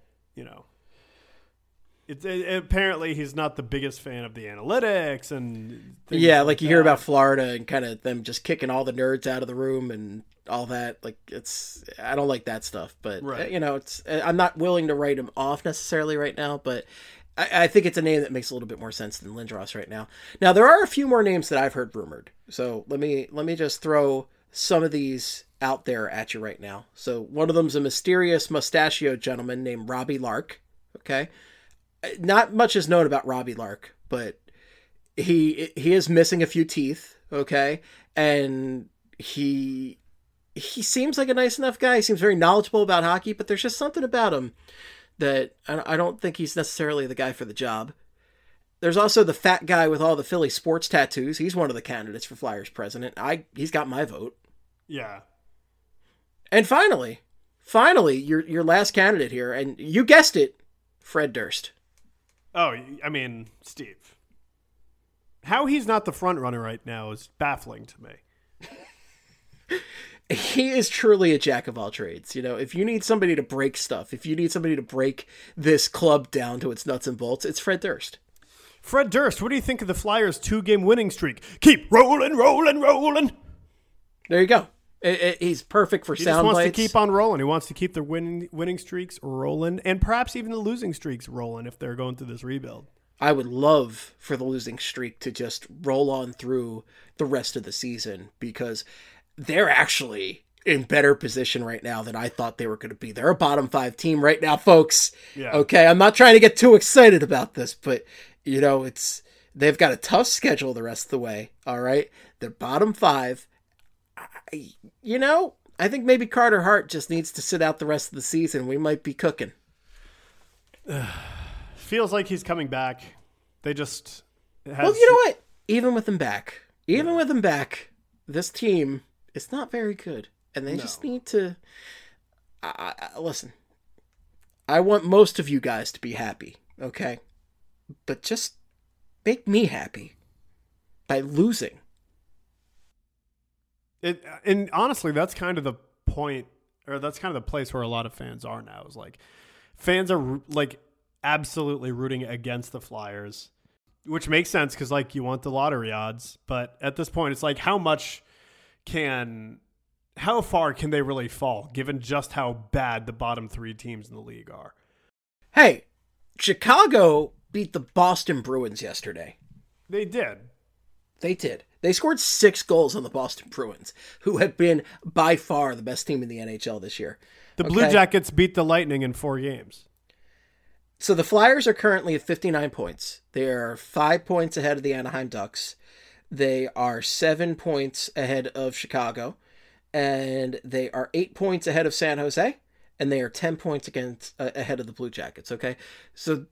apparently he's not the biggest fan of the analytics and things you hear about Florida and kind of them just kicking all the nerds out of the room and all that. I don't like that stuff, but right. I'm not willing to write him off necessarily right now, but I think it's a name that makes a little bit more sense than Lindros right now. Now there are a few more names that I've heard rumored, so let me just throw some of these out there at you right now. So one of them's a mysterious mustachioed gentleman named Robbie Lark. Okay. Not much is known about Robbie Lark, but he is missing a few teeth. Okay. And he seems like a nice enough guy. He seems very knowledgeable about hockey, but there's just something about him that I don't think he's necessarily the guy for the job. There's also the fat guy with all the Philly sports tattoos. He's one of the candidates for Flyers president. He's got my vote. Yeah. And finally, your last candidate here, and you guessed it, Fred Durst. Oh, I mean, Steve. How he's not the front runner right now is baffling to me. He is truly a jack of all trades. If you need somebody to break stuff, if you need somebody to break this club down to its nuts and bolts, it's Fred Durst. Fred Durst, what do you think of the Flyers' 2-game winning streak? Keep rolling. There you go. He's perfect for sound bites. He just wants to keep on rolling. He wants to keep the winning streaks rolling and perhaps even the losing streaks rolling if they're going through this rebuild. I would love for the losing streak to just roll on through the rest of the season because they're actually in better position right now than I thought they were going to be. They're a bottom 5 team right now, folks. Yeah. Okay, I'm not trying to get too excited about this, but They've got a tough schedule the rest of the way. All right. They're bottom 5. I think maybe Carter Hart just needs to sit out the rest of the season. We might be cooking. Feels like he's coming back. They just Well, you know what? Even with him back, this team is not very good. And they just need to... listen, I want most of you guys to be happy, okay? But just make me happy by losing. And honestly, that's kind of the point, or that's kind of the place where a lot of fans are now. Is like, fans are like absolutely rooting against the Flyers, which makes sense because like you want the lottery odds. But at this point, it's like how far can they really fall, given just how bad the bottom 3 teams in the league are? Hey, Chicago beat the Boston Bruins yesterday. They did. They scored 6 goals on the Boston Bruins, who have been by far the best team in the NHL this year. The Blue Jackets beat the Lightning in 4 games. So the Flyers are currently at 59 points. They are 5 points ahead of the Anaheim Ducks. They are 7 points ahead of Chicago. And they are 8 points ahead of San Jose. And they are 10 points ahead of the Blue Jackets, okay? So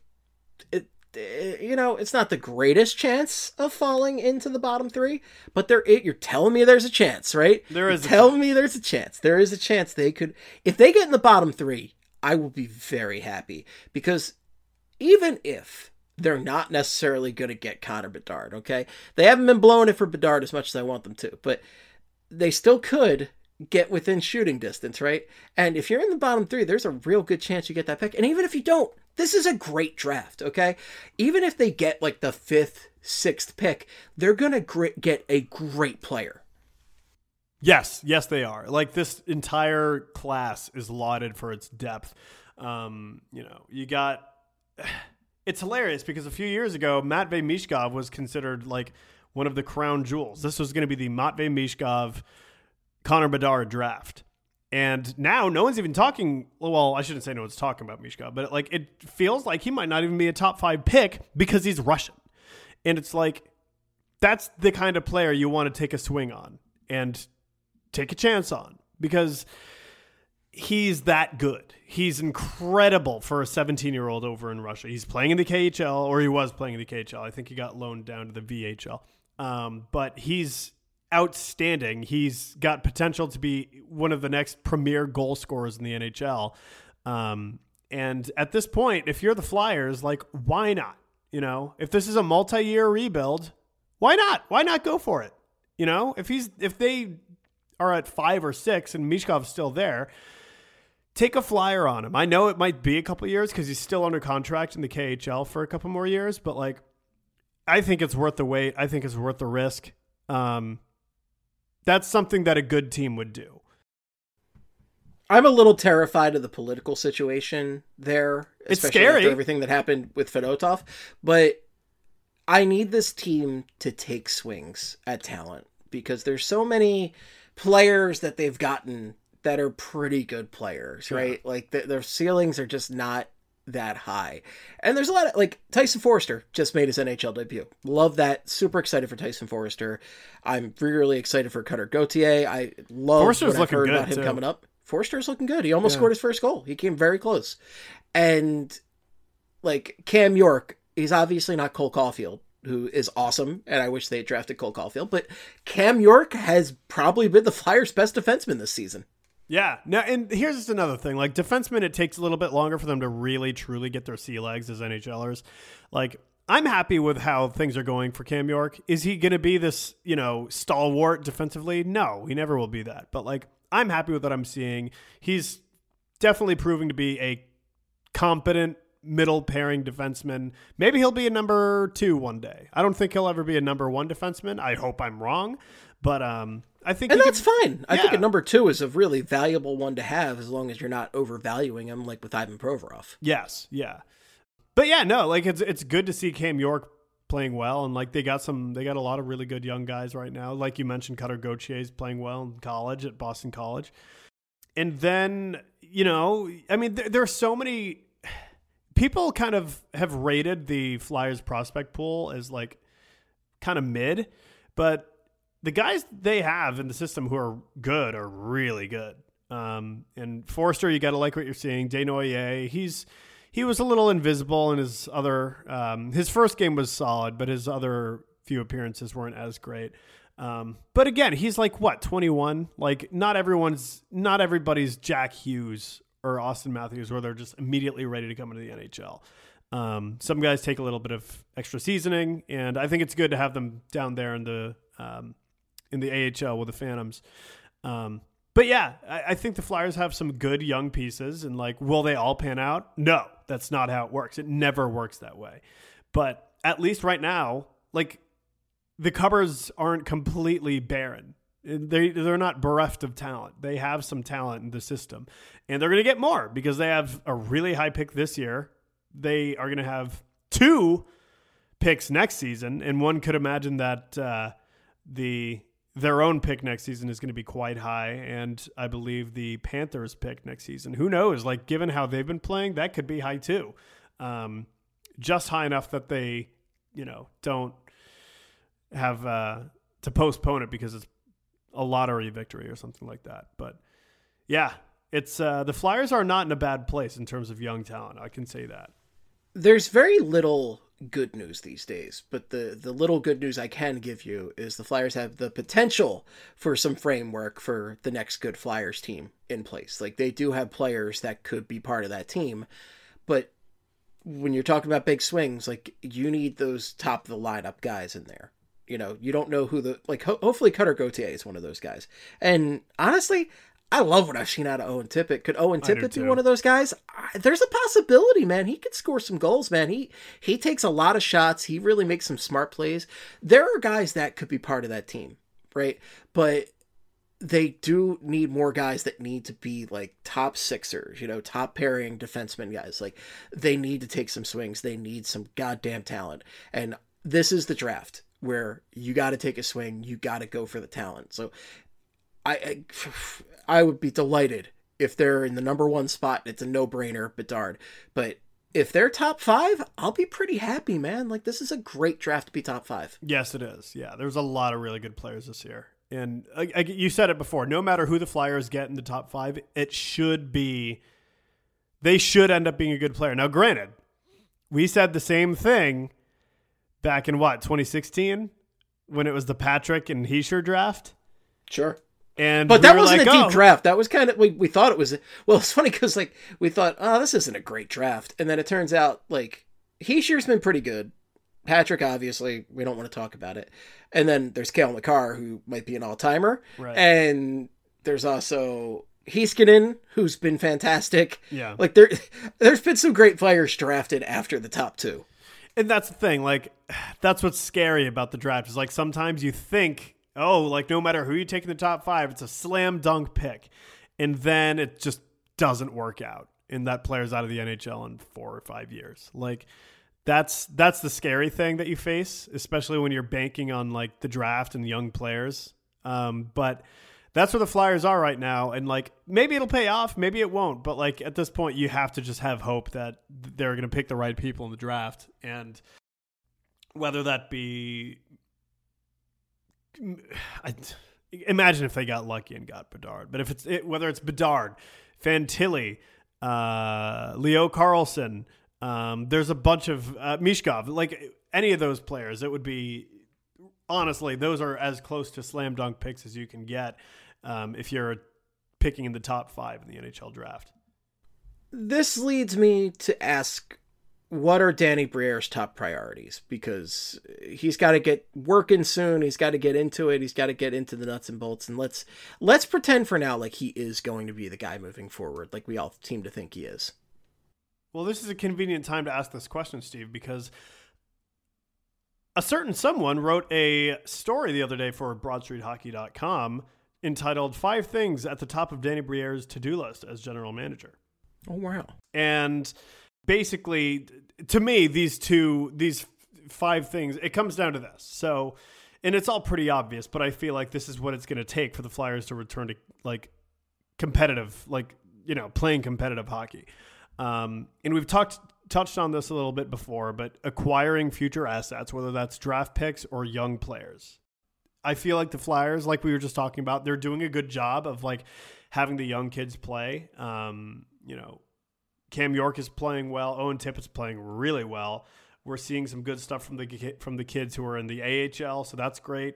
it's not the greatest chance of falling into the bottom 3, but you're telling me there's a chance, right? There's a chance. There is a chance they could, if they get in the bottom 3, I will be very happy, because even if they're not necessarily going to get Connor Bedard, okay? They haven't been blowing it for Bedard as much as I want them to, but they still could get within shooting distance, right? And if you're in the bottom 3, there's a real good chance you get that pick. And even if you don't, this is a great draft, okay? Even if they get like the 5th, 6th pick, they're going to get a great player. Yes, they are. Like, this entire class is lauded for its depth. You got... It's hilarious because a few years ago, Matvei Michkov was considered like one of the crown jewels. This was going to be the Matvei Michkov Connor Bedard draft. And now no one's even talking. Well, I shouldn't say no one's talking about Michkov, but it feels like he might not even be a top 5 pick because he's Russian. And it's like, that's the kind of player you want to take a swing on and take a chance on, because he's that good. He's incredible for a 17-year-old over in Russia. He's playing in the KHL, or he was playing in the KHL. I think he got loaned down to the VHL. But he's outstanding. He's got potential to be one of the next premier goal scorers in the NHL. And at this point, if you're the Flyers, like, why not? If this is a multi-year rebuild, why not? Why not go for it? If they are at 5 or 6 and Michkov's still there, take a flyer on him. I know it might be a couple of years because he's still under contract in the KHL for a couple more years, but like, I think it's worth the wait. I think it's worth the risk. That's something that a good team would do. I'm a little terrified of the political situation there. It's scary. After everything that happened with Fedotov, but I need this team to take swings at talent, because there's so many players that they've gotten that are pretty good players, right? Yeah. Like their ceilings are just not that high. And there's a lot of, like, Tyson Foerster just made his NHL debut. Love that. Super excited for Tyson Foerster. I'm really excited for Cutter Gauthier. I love Foerster's what I've heard about him coming up. Foerster's looking good. He almost scored his first goal. He came very close. And like Cam York, he's obviously not Cole Caulfield, who is awesome, and I wish they had drafted Cole Caulfield, but Cam York has probably been the Flyers' best defenseman this season. Yeah. Now, and here's just another thing. Like, defensemen, it takes a little bit longer for them to really, truly get their sea legs as NHLers. Like, I'm happy with how things are going for Cam York. Is he going to be this, stalwart defensively? No, he never will be that. But, like, I'm happy with what I'm seeing. He's definitely proving to be a competent middle pairing defenseman. Maybe he'll be a number 2 one day. I don't think he'll ever be a number 1 defenseman. I hope I'm wrong. But I think... And that's fine. I think a number 2 is a really valuable one to have, as long as you're not overvaluing him, like with Ivan Provorov. Yes, yeah. But yeah, no, like it's good to see Cam York playing well, and like they got a lot of really good young guys right now. Like you mentioned, Cutter Gauthier is playing well in college at Boston College. And then, there are so many... People kind of have rated the Flyers prospect pool as like kind of mid, but the guys they have in the system who are good are really good. And Forster, you got to like what you're seeing. Desnoyers, he was a little invisible in his other, his first game was solid, but his other few appearances weren't as great. But again, he's like, what, 21? Like not everybody's Jack Hughes or Austin Matthews where they're just immediately ready to come into the NHL. Some guys take a little bit of extra seasoning, and I think it's good to have them down there in the AHL with the Phantoms. But yeah, I think the Flyers have some good young pieces, and like, will they all pan out? No, that's not how it works. It never works that way. But at least right now, like the cupboards aren't completely barren. They're not bereft of talent. They have some talent in the system, and they're going to get more because they have a really high pick this year. They are going to have 2 picks next season, and one could imagine that their own pick next season is going to be quite high, and I believe the Panthers pick next season. Who knows? Like, given how they've been playing, that could be high too. Just high enough that they, don't have to postpone it because it's a lottery victory or something like that. But yeah, it's the Flyers are not in a bad place in terms of young talent. I can say that. There's very little good news these days, but the little good news I can give you is the Flyers have the potential for some framework for the next good Flyers team in place. Like they do have players that could be part of that team, but when you're talking about big swings, like you need those top of the lineup guys in there. You don't know who hopefully Cutter Gauthier is one of those guys. And honestly, I love what I've seen out of Owen Tippett. Could Owen Tippett be one of those guys? There's a possibility, man. He could score some goals, man. He takes a lot of shots. He really makes some smart plays. There are guys that could be part of that team, right? But they do need more guys that need to be like top sixers, top pairing defenseman guys. Like they need to take some swings. They need some goddamn talent. And this is the draft where you got to take a swing. You got to go for the talent. So I would be delighted if they're in the number 1 spot. It's a no-brainer, Bedard. But if they're top 5, I'll be pretty happy, man. Like, this is a great draft to be top 5. Yes, it is. Yeah, there's a lot of really good players this year. And you said it before, no matter who the Flyers get in the top 5, they should end up being a good player. Now, granted, we said the same thing back in 2016 when it was the Patrick and Hischier draft? Sure. But that wasn't a deep draft. That was kind of, we thought it was, well, it's funny because like we thought, oh, this isn't a great draft. And then it turns out like Hischier's been pretty good. Patrick, obviously, we don't want to talk about it. And then there's Cale Makar, who might be an all-timer. Right. And there's also Heiskanen, who's been fantastic. Yeah. Like there's been some great players drafted after the top 2. And that's the thing. Like, that's what's scary about the draft is like sometimes you think, oh, like no matter who you take in the top 5, it's a slam dunk pick. And then it just doesn't work out. And that player's out of the NHL in 4 or 5 years. Like that's the scary thing that you face, especially when you're banking on like the draft and young players. But that's where the Flyers are right now. And like, maybe it'll pay off, maybe it won't. But like at this point, you have to just have hope that they're going to pick the right people in the draft. And whether that be, imagine if they got lucky and got Bedard. But if whether it's Bedard, Fantilli, Leo Carlson, there's a bunch of Mishkov, like any of those players, it would be, honestly, those are as close to slam dunk picks as you can get if you're picking in the top 5 in the NHL draft. This leads me to ask, what are Danny Briere's top priorities? Because he's got to get working soon. He's got to get into it. He's got to get into the nuts and bolts. And let's pretend for now like he is going to be the guy moving forward, like we all seem to think he is. Well, this is a convenient time to ask this question, Steve, because a certain someone wrote a story the other day for BroadStreetHockey.com entitled 5 Things at the Top of Danny Briere's To-Do List as General Manager. Oh, wow. And basically, to me, these 5 things, it comes down to this. So, and it's all pretty obvious, but I feel like this is what it's going to take for the Flyers to return to like competitive, like, playing competitive hockey. And we've talked touched on this a little bit before, but acquiring future assets, whether that's draft picks or young players. I feel like the Flyers, like we were just talking about, they're doing a good job of like having the young kids play. Cam York is playing well. Owen Tippett's playing really well. We're seeing some good stuff from the kids who are in the AHL, so that's great.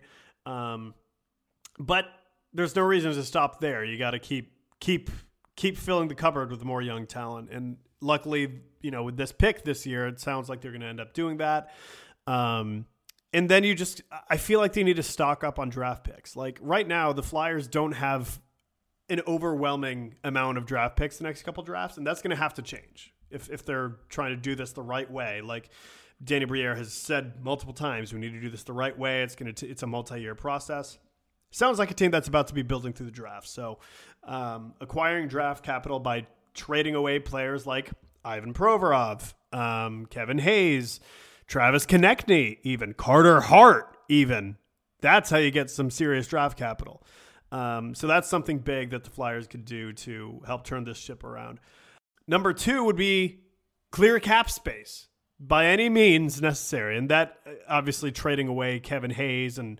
But there's no reason to stop there. You got to keep filling the cupboard with more young talent. And luckily, with this pick this year, it sounds like they're going to end up doing that. And then I feel like they need to stock up on draft picks. Like right now, the Flyers don't have an overwhelming amount of draft picks the next couple drafts, and that's going to have to change if they're trying to do this the right way. Like Danny Briere has said multiple times, we need to do this the right way. It's a multi-year process. Sounds like a team that's about to be building through the draft. So acquiring draft capital by trading away players like Ivan Provorov, Kevin Hayes, Travis Konechny, even Carter Hart, even. That's how you get some serious draft capital. So that's something big that the Flyers could do to help turn this ship around. Number 2 would be clear cap space by any means necessary. And that obviously trading away Kevin Hayes and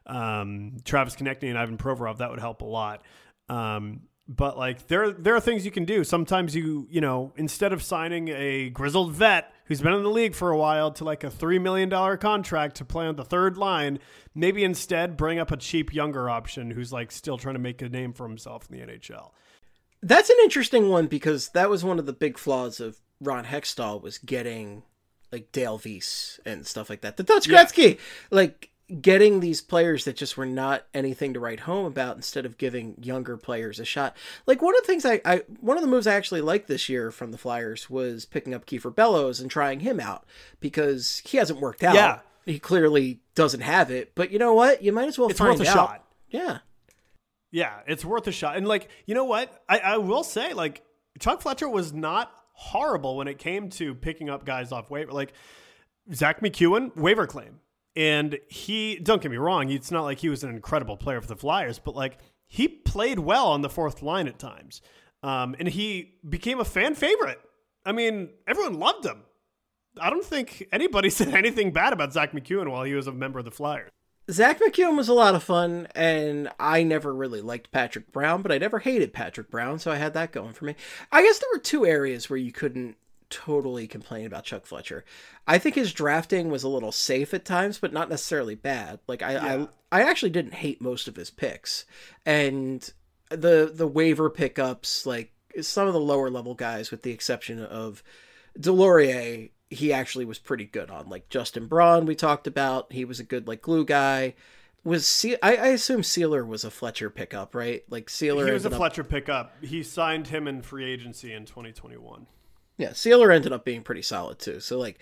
Travis Konechny and Ivan Provorov, that would help a lot. But like there are things you can do. Sometimes you instead of signing a grizzled vet who's been in the league for a while to like a $3 million contract to play on the third line, maybe instead bring up a cheap younger option who's like still trying to make a name for himself in the NHL. That's an interesting one because that was one of the big flaws of Ron Hextall was getting like Dale Weiss and stuff like that. The Dutch Gretzky, like getting these players that just were not anything to write home about instead of giving younger players a shot. Like one of the things one of the moves I actually liked this year from the Flyers was picking up Kiefer Bellows and trying him out because he hasn't worked out. Yeah. He clearly doesn't have it, but you know what? You might as well find out. It's worth a shot. Yeah. Yeah, it's worth a shot. And like, you know what? I will say like Chuck Fletcher was not horrible when it came to picking up guys off waiver. Like Zach McEwen, waiver claim. And don't get me wrong, it's not like he was an incredible player for the Flyers, but like he played well on the fourth line at times. And he became a fan favorite. I mean, everyone loved him. I don't think anybody said anything bad about Zach McEwen while he was a member of the Flyers. Zach McEwen was a lot of fun, and I never really liked Patrick Brown, but I never hated Patrick Brown, so I had that going for me. I guess there were 2 areas where you couldn't totally complain about Chuck Fletcher. I think his drafting was a little safe at times, but not necessarily bad. Like I actually didn't hate most of his picks, and the waiver pickups, like some of the lower level guys, with the exception of Delorier, he actually was pretty good on. Like Justin Braun, we talked about, he was a good like glue guy. I assume Sealer was a Fletcher pickup, right? Like Sealer, he was a Fletcher pickup. He signed him in free agency in 2021. Yeah, Sealer ended up being pretty solid too. So like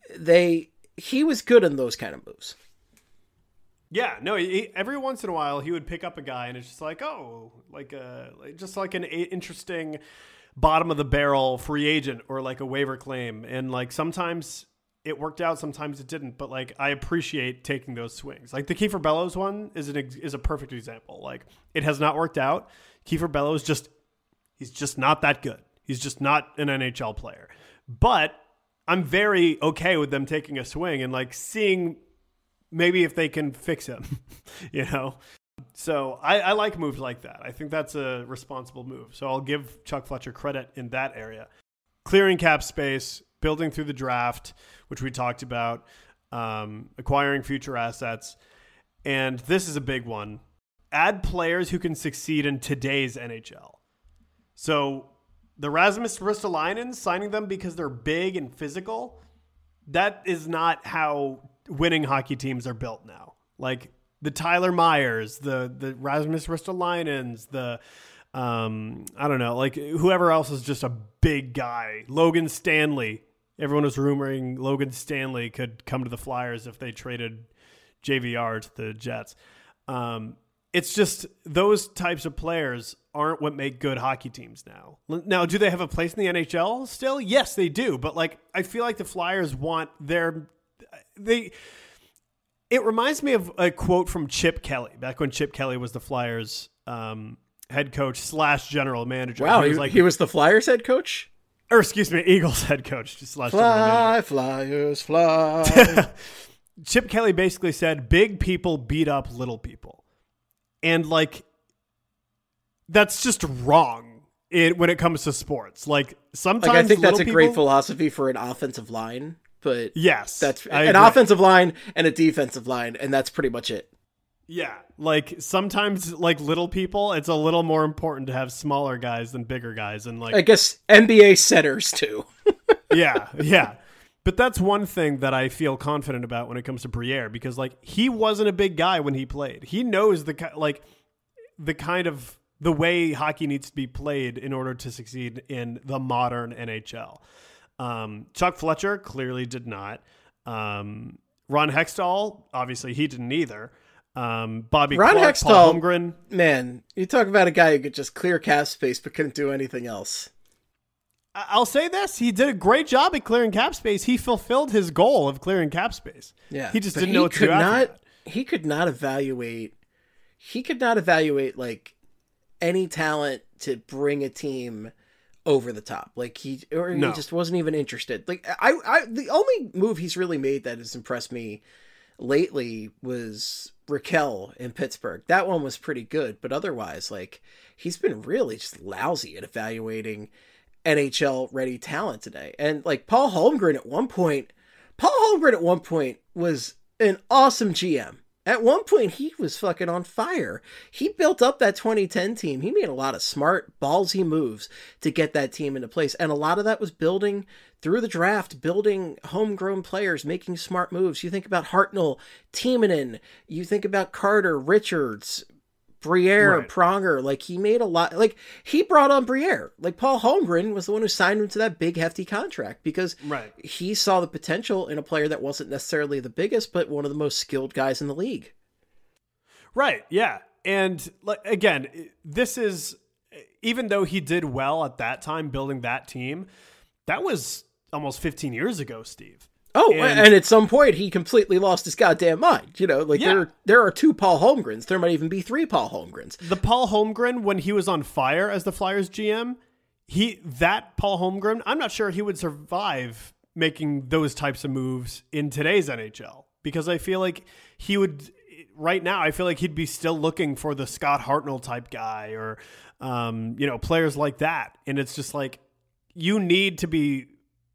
he was good in those kind of moves. Yeah, no, every once in a while he would pick up a guy and it's just like, just like an interesting bottom of the barrel free agent or like a waiver claim. And like sometimes it worked out, sometimes it didn't. But like I appreciate taking those swings. Like the Kiefer Bellows one is a perfect example. Like it has not worked out. Kiefer Bellows he's just not that good. He's just not an NHL player. But I'm very okay with them taking a swing and like seeing maybe if they can fix him, So I like moves like that. I think that's a responsible move. So I'll give Chuck Fletcher credit in that area. Clearing cap space, building through the draft, which we talked about, acquiring future assets. And this is a big one. Add players who can succeed in today's NHL. So the Rasmus Ristolainen, signing them because they're big and physical, that is not how winning hockey teams are built now. Like the Tyler Myers, the Rasmus Ristolainens, I don't know, like whoever else is just a big guy. Logan Stanley. Everyone was rumoring Logan Stanley could come to the Flyers if they traded JVR to the Jets. It's just those types of players aren't what make good hockey teams now. Now, do they have a place in the NHL still? Yes, they do. But like, I feel like the Flyers want it reminds me of a quote from Chip Kelly back when Chip Kelly was the Flyers head coach / general manager. Wow, he was the Flyers head coach? or excuse me, Eagles head coach. Just last Fly, Flyers, fly. Chip Kelly basically said, big people beat up little people. And like, that's just wrong when it comes to sports. Like sometimes I think that's a great people, philosophy for an offensive line, but yes, that's an offensive line and a defensive line. And that's pretty much it. Yeah. Like sometimes like little people, it's a little more important to have smaller guys than bigger guys. And like, I guess NBA centers too. Yeah. But that's one thing that I feel confident about when it comes to Briere, because like he wasn't a big guy when he played. He knows the kind of the way hockey needs to be played in order to succeed in the modern NHL. Chuck Fletcher clearly did not. Ron Hextall, obviously he didn't either. Bobby Ron Clark, Hextall, Paul Holmgren. Man, you talk about a guy who could just clear cap space but couldn't do anything else. I'll say this. He did a great job at clearing cap space. He fulfilled his goal of clearing cap space. Yeah. He just didn't know what to do after that. He could not evaluate like any talent to bring a team over the top. Like he just wasn't even interested. Like the only move he's really made that has impressed me lately was Raquel in Pittsburgh. That one was pretty good, but otherwise, like he's been really just lousy at evaluating NHL ready talent today. And like Paul Holmgren at one point was an awesome GM. At one point, he was fucking on fire. He built up that 2010 team. He made a lot of smart, ballsy moves to get that team into place. And a lot of that was building through the draft, building homegrown players, making smart moves. You think about Hartnell, Timonen, you think about Carter, Richards, Briere, right. Pronger. Like he made a lot, like he brought on Briere. Like Paul Holmgren was the one who signed him to that big hefty contract because he saw the potential in a player that wasn't necessarily the biggest, but one of the most skilled guys in the league. Right. Yeah. And like, again, this is, even though he did well at that time, building that team, that was almost 15 years ago, Steve. Oh, and at some point he completely lost his goddamn mind. You know, like there are 2 Paul Holmgrens. There might even be 3 Paul Holmgrens. The Paul Holmgren, when he was on fire as the Flyers GM, that Paul Holmgren, I'm not sure he would survive making those types of moves in today's NHL, because I feel like he would right now. I feel like he'd be still looking for the Scott Hartnell type guy or, players like that. And it's just like, you need to be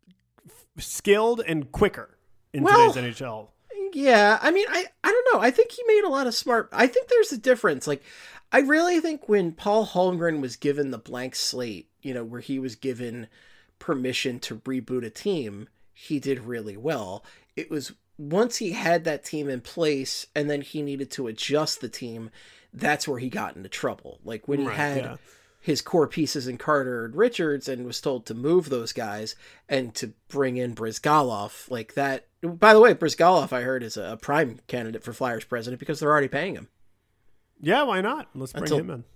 skilled and quicker in today's NHL. Yeah, I mean, I don't know. I think he made a lot of smart. I think there's a difference. Like, I really think when Paul Holmgren was given the blank slate, where he was given permission to reboot a team, he did really well. It was once he had that team in place and then he needed to adjust the team, that's where he got into trouble. Like when he had his core pieces in Carter and Richards and was told to move those guys and to bring in Brizgalov like that. By the way, Brizgalov, I heard, is a prime candidate for Flyers president because they're already paying him. Yeah, why not? Let's bring him in.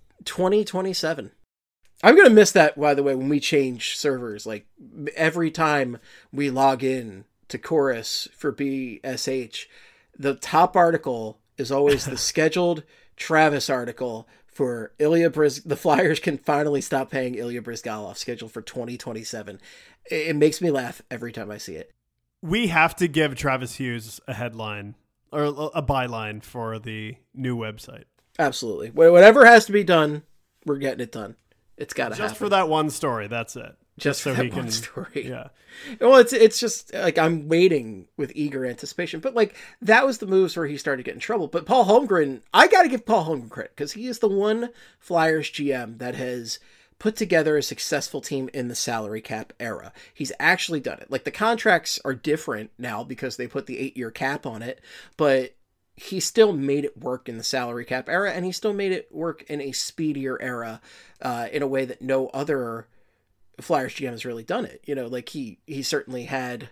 2027. I'm going to miss that, by the way, when we change servers. Like every time we log in to Chorus for BSH, the top article is always the scheduled Travis article for the Flyers can finally stop paying Ilya Brizgalov, scheduled for 2027. It makes me laugh every time I see it. We have to give Travis Hughes a headline or a byline for the new website. Absolutely. Whatever has to be done, we're getting it done. It's got to happen. Just for that one story, that's it. Just so he can story. Yeah. Well, it's just like I'm waiting with eager anticipation. But like that was the moves where he started getting in trouble. But Paul Holmgren, I got to give Paul Holmgren credit because he is the one Flyers GM that has put together a successful team in the salary cap era. He's actually done it. Like the contracts are different now because they put the 8-year cap on it, but he still made it work in the salary cap era, and he still made it work in a speedier era in a way that no other Flyers GM has really done it. Like he certainly had,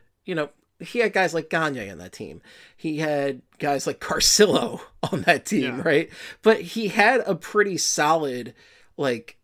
he had guys like Gagne on that team. He had guys like Carcillo on that team, right? But he had a pretty solid, like,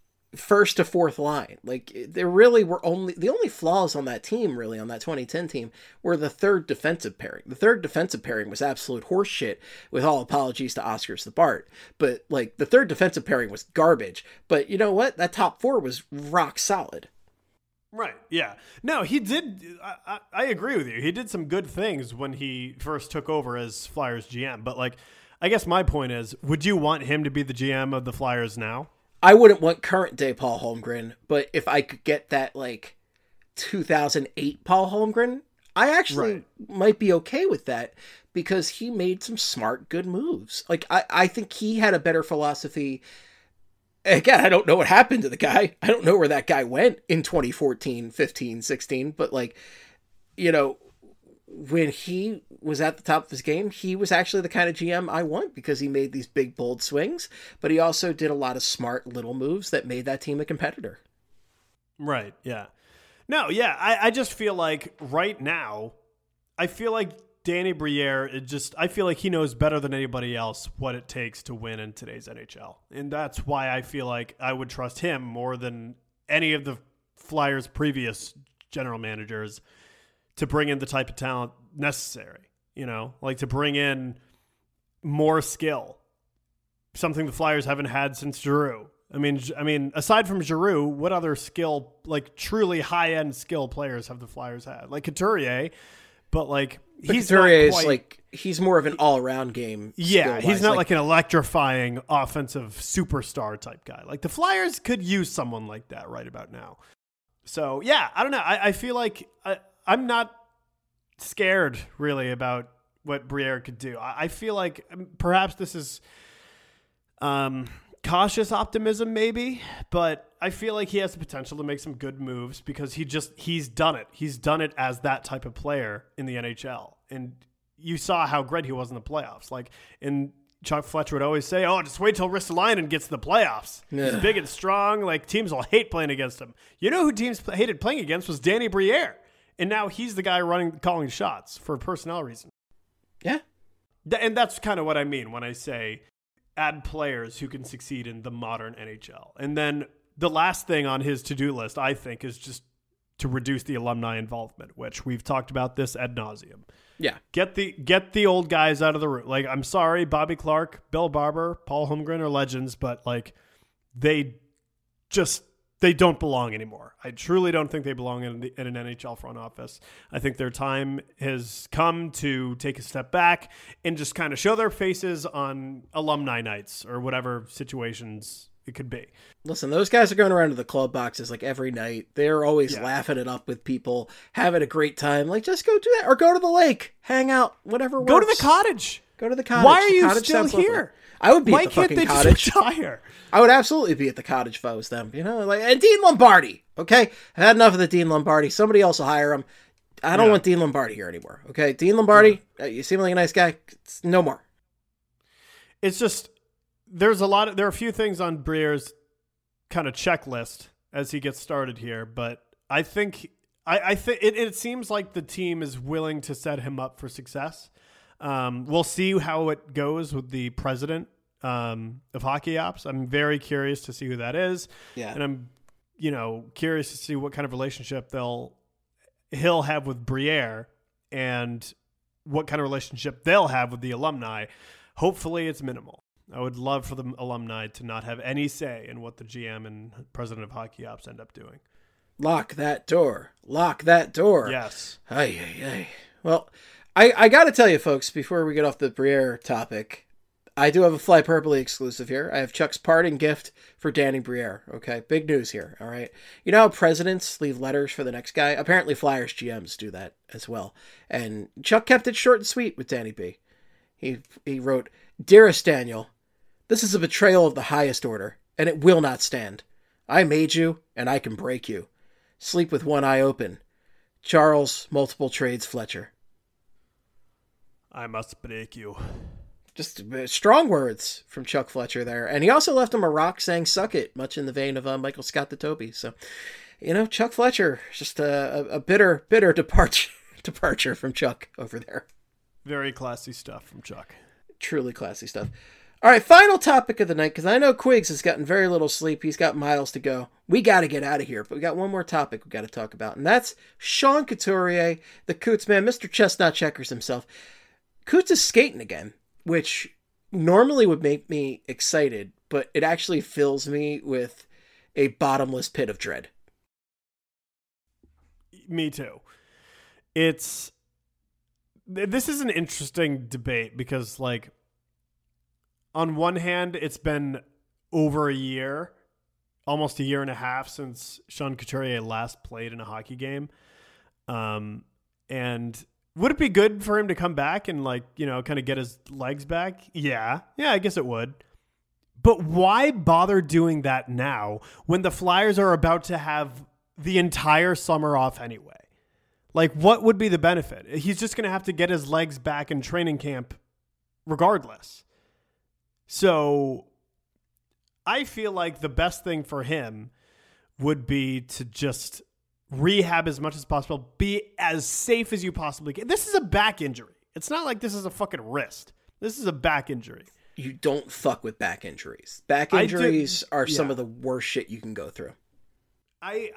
first to fourth line. Like there really were the only flaws on that team, really, on that 2010 team, were the third defensive pairing. The third defensive pairing was absolute horseshit, with all apologies to Oscar Sabart. But like the third defensive pairing was garbage. But you know what? That top 4 was rock solid. Right. Yeah. No, he did. I agree with you. He did some good things when he first took over as Flyers GM. But like, I guess my point is, would you want him to be the GM of the Flyers now? I wouldn't want current day Paul Holmgren, but if I could get that like 2008 Paul Holmgren, I actually might be okay with that because he made some smart, good moves. Like, I think he had a better philosophy. Again, I don't know what happened to the guy. I don't know where that guy went in 2014, 15, 16. But, like, you know, when he was at the top of his game, he was actually the kind of GM I want because he made these big, bold swings. But he also did a lot of smart little moves that made that team a competitor. Right, yeah. No, yeah, I just feel like right now, I feel like Danny Briere, I feel like he knows better than anybody else what it takes to win in today's NHL. And that's why I feel like I would trust him more than any of the Flyers' previous general managers to bring in the type of talent necessary, you know, like to bring in more skill, something the Flyers haven't had since Giroux. I mean, aside from Giroux, what other skill, like truly high-end skill players have the Flyers had? Like Couturier, but like Couturier is like he's more of an all-around game. Yeah, he's not like an electrifying offensive superstar type guy. Like the Flyers could use someone like that right about now. So yeah, I don't know. I feel like I'm not scared really about what Briere could do. I feel like perhaps this is cautious optimism maybe, but I feel like he has the potential to make some good moves because he's done it. He's done it as that type of player in the NHL. And you saw how great he was in the playoffs. Like, Chuck Fletcher would always say, just wait till Ristolainen gets to the playoffs. Yeah. He's big and strong. Like, teams will hate playing against him. You know who teams hated playing against was Danny Briere. And now he's the guy calling shots for personnel reasons. Yeah. And that's kind of what I mean when I say add players who can succeed in the modern NHL. And then the last thing on his to-do list, I think, is just to reduce the alumni involvement, which we've talked about this ad nauseum. Yeah. Get the old guys out of the room. Like, I'm sorry, Bobby Clark, Bill Barber, Paul Holmgren are legends, but like they don't belong anymore. I truly don't think they belong in an NHL front office. I think their time has come to take a step back and just kind of show their faces on alumni nights or whatever situations it could be. Listen, those guys are going around to the club boxes like every night. They're always laughing it up with people, having a great time. Like, just go do that or go to the lake, hang out, whatever works. Go to the cottage. Go to the cottage. Why are you still here? Lovely. I would be at the fucking cottage. Just retire? I would absolutely be at the cottage if I was them. You know, like, and Dean Lombardi. Okay, I've had enough of the Dean Lombardi. Somebody else will hire him. I don't want Dean Lombardi here anymore. Okay, Dean Lombardi, you seem like a nice guy. No more. It's just there are a few things on Briere's kind of checklist as he gets started here, but I think it seems like the team is willing to set him up for success. We'll see how it goes with the president of hockey ops. I'm very curious to see who that is. Yeah. And I'm, curious to see what kind of relationship he'll have with Briere and what kind of relationship they'll have with the alumni. Hopefully it's minimal. I would love for the alumni to not have any say in what the GM and president of hockey ops end up doing. Lock that door. Lock that door. Yes. Ay. Well, I got to tell you, folks, before we get off the Briere topic, I do have a Fly Purpley exclusive here. I have Chuck's parting gift for Danny Briere. Okay, big news here. All right. You know how presidents leave letters for the next guy? Apparently Flyers GMs do that as well. And Chuck kept it short and sweet with Danny B. He wrote, "Dearest Daniel, this is a betrayal of the highest order, and it will not stand. I made you, and I can break you. Sleep with one eye open. Charles Multiple Trades Fletcher." I must break you. Just strong words from Chuck Fletcher there. And he also left him a rock saying, "Suck it," much in the vein of Michael Scott the Toby. So, Chuck Fletcher, just a bitter departure from Chuck over there. Very classy stuff from Chuck. Truly classy stuff. All right, final topic of the night, because I know Quiggs has gotten very little sleep. He's got miles to go. We got to get out of here, but we got one more topic we got to talk about, and that's Sean Couturier, the Coots man, Mr. Chestnut Checkers himself. Coots is skating again, which normally would make me excited, but it actually fills me with a bottomless pit of dread. Me too. This is an interesting debate because, like, on one hand, it's been over a year, almost a year and a half since Sean Couturier last played in a hockey game. And would it be good for him to come back and, like, you know, kind of get his legs back? Yeah, I guess it would. But why bother doing that now when the Flyers are about to have the entire summer off anyway? Like, what would be the benefit? He's just going to have to get his legs back in training camp regardless. So I feel like the best thing for him would be to just rehab as much as possible, be as safe as you possibly can. This is a back injury. It's not like this is a fucking wrist. This is a back injury. You don't fuck with back injuries. Back injuries are some of the worst shit you can go through. I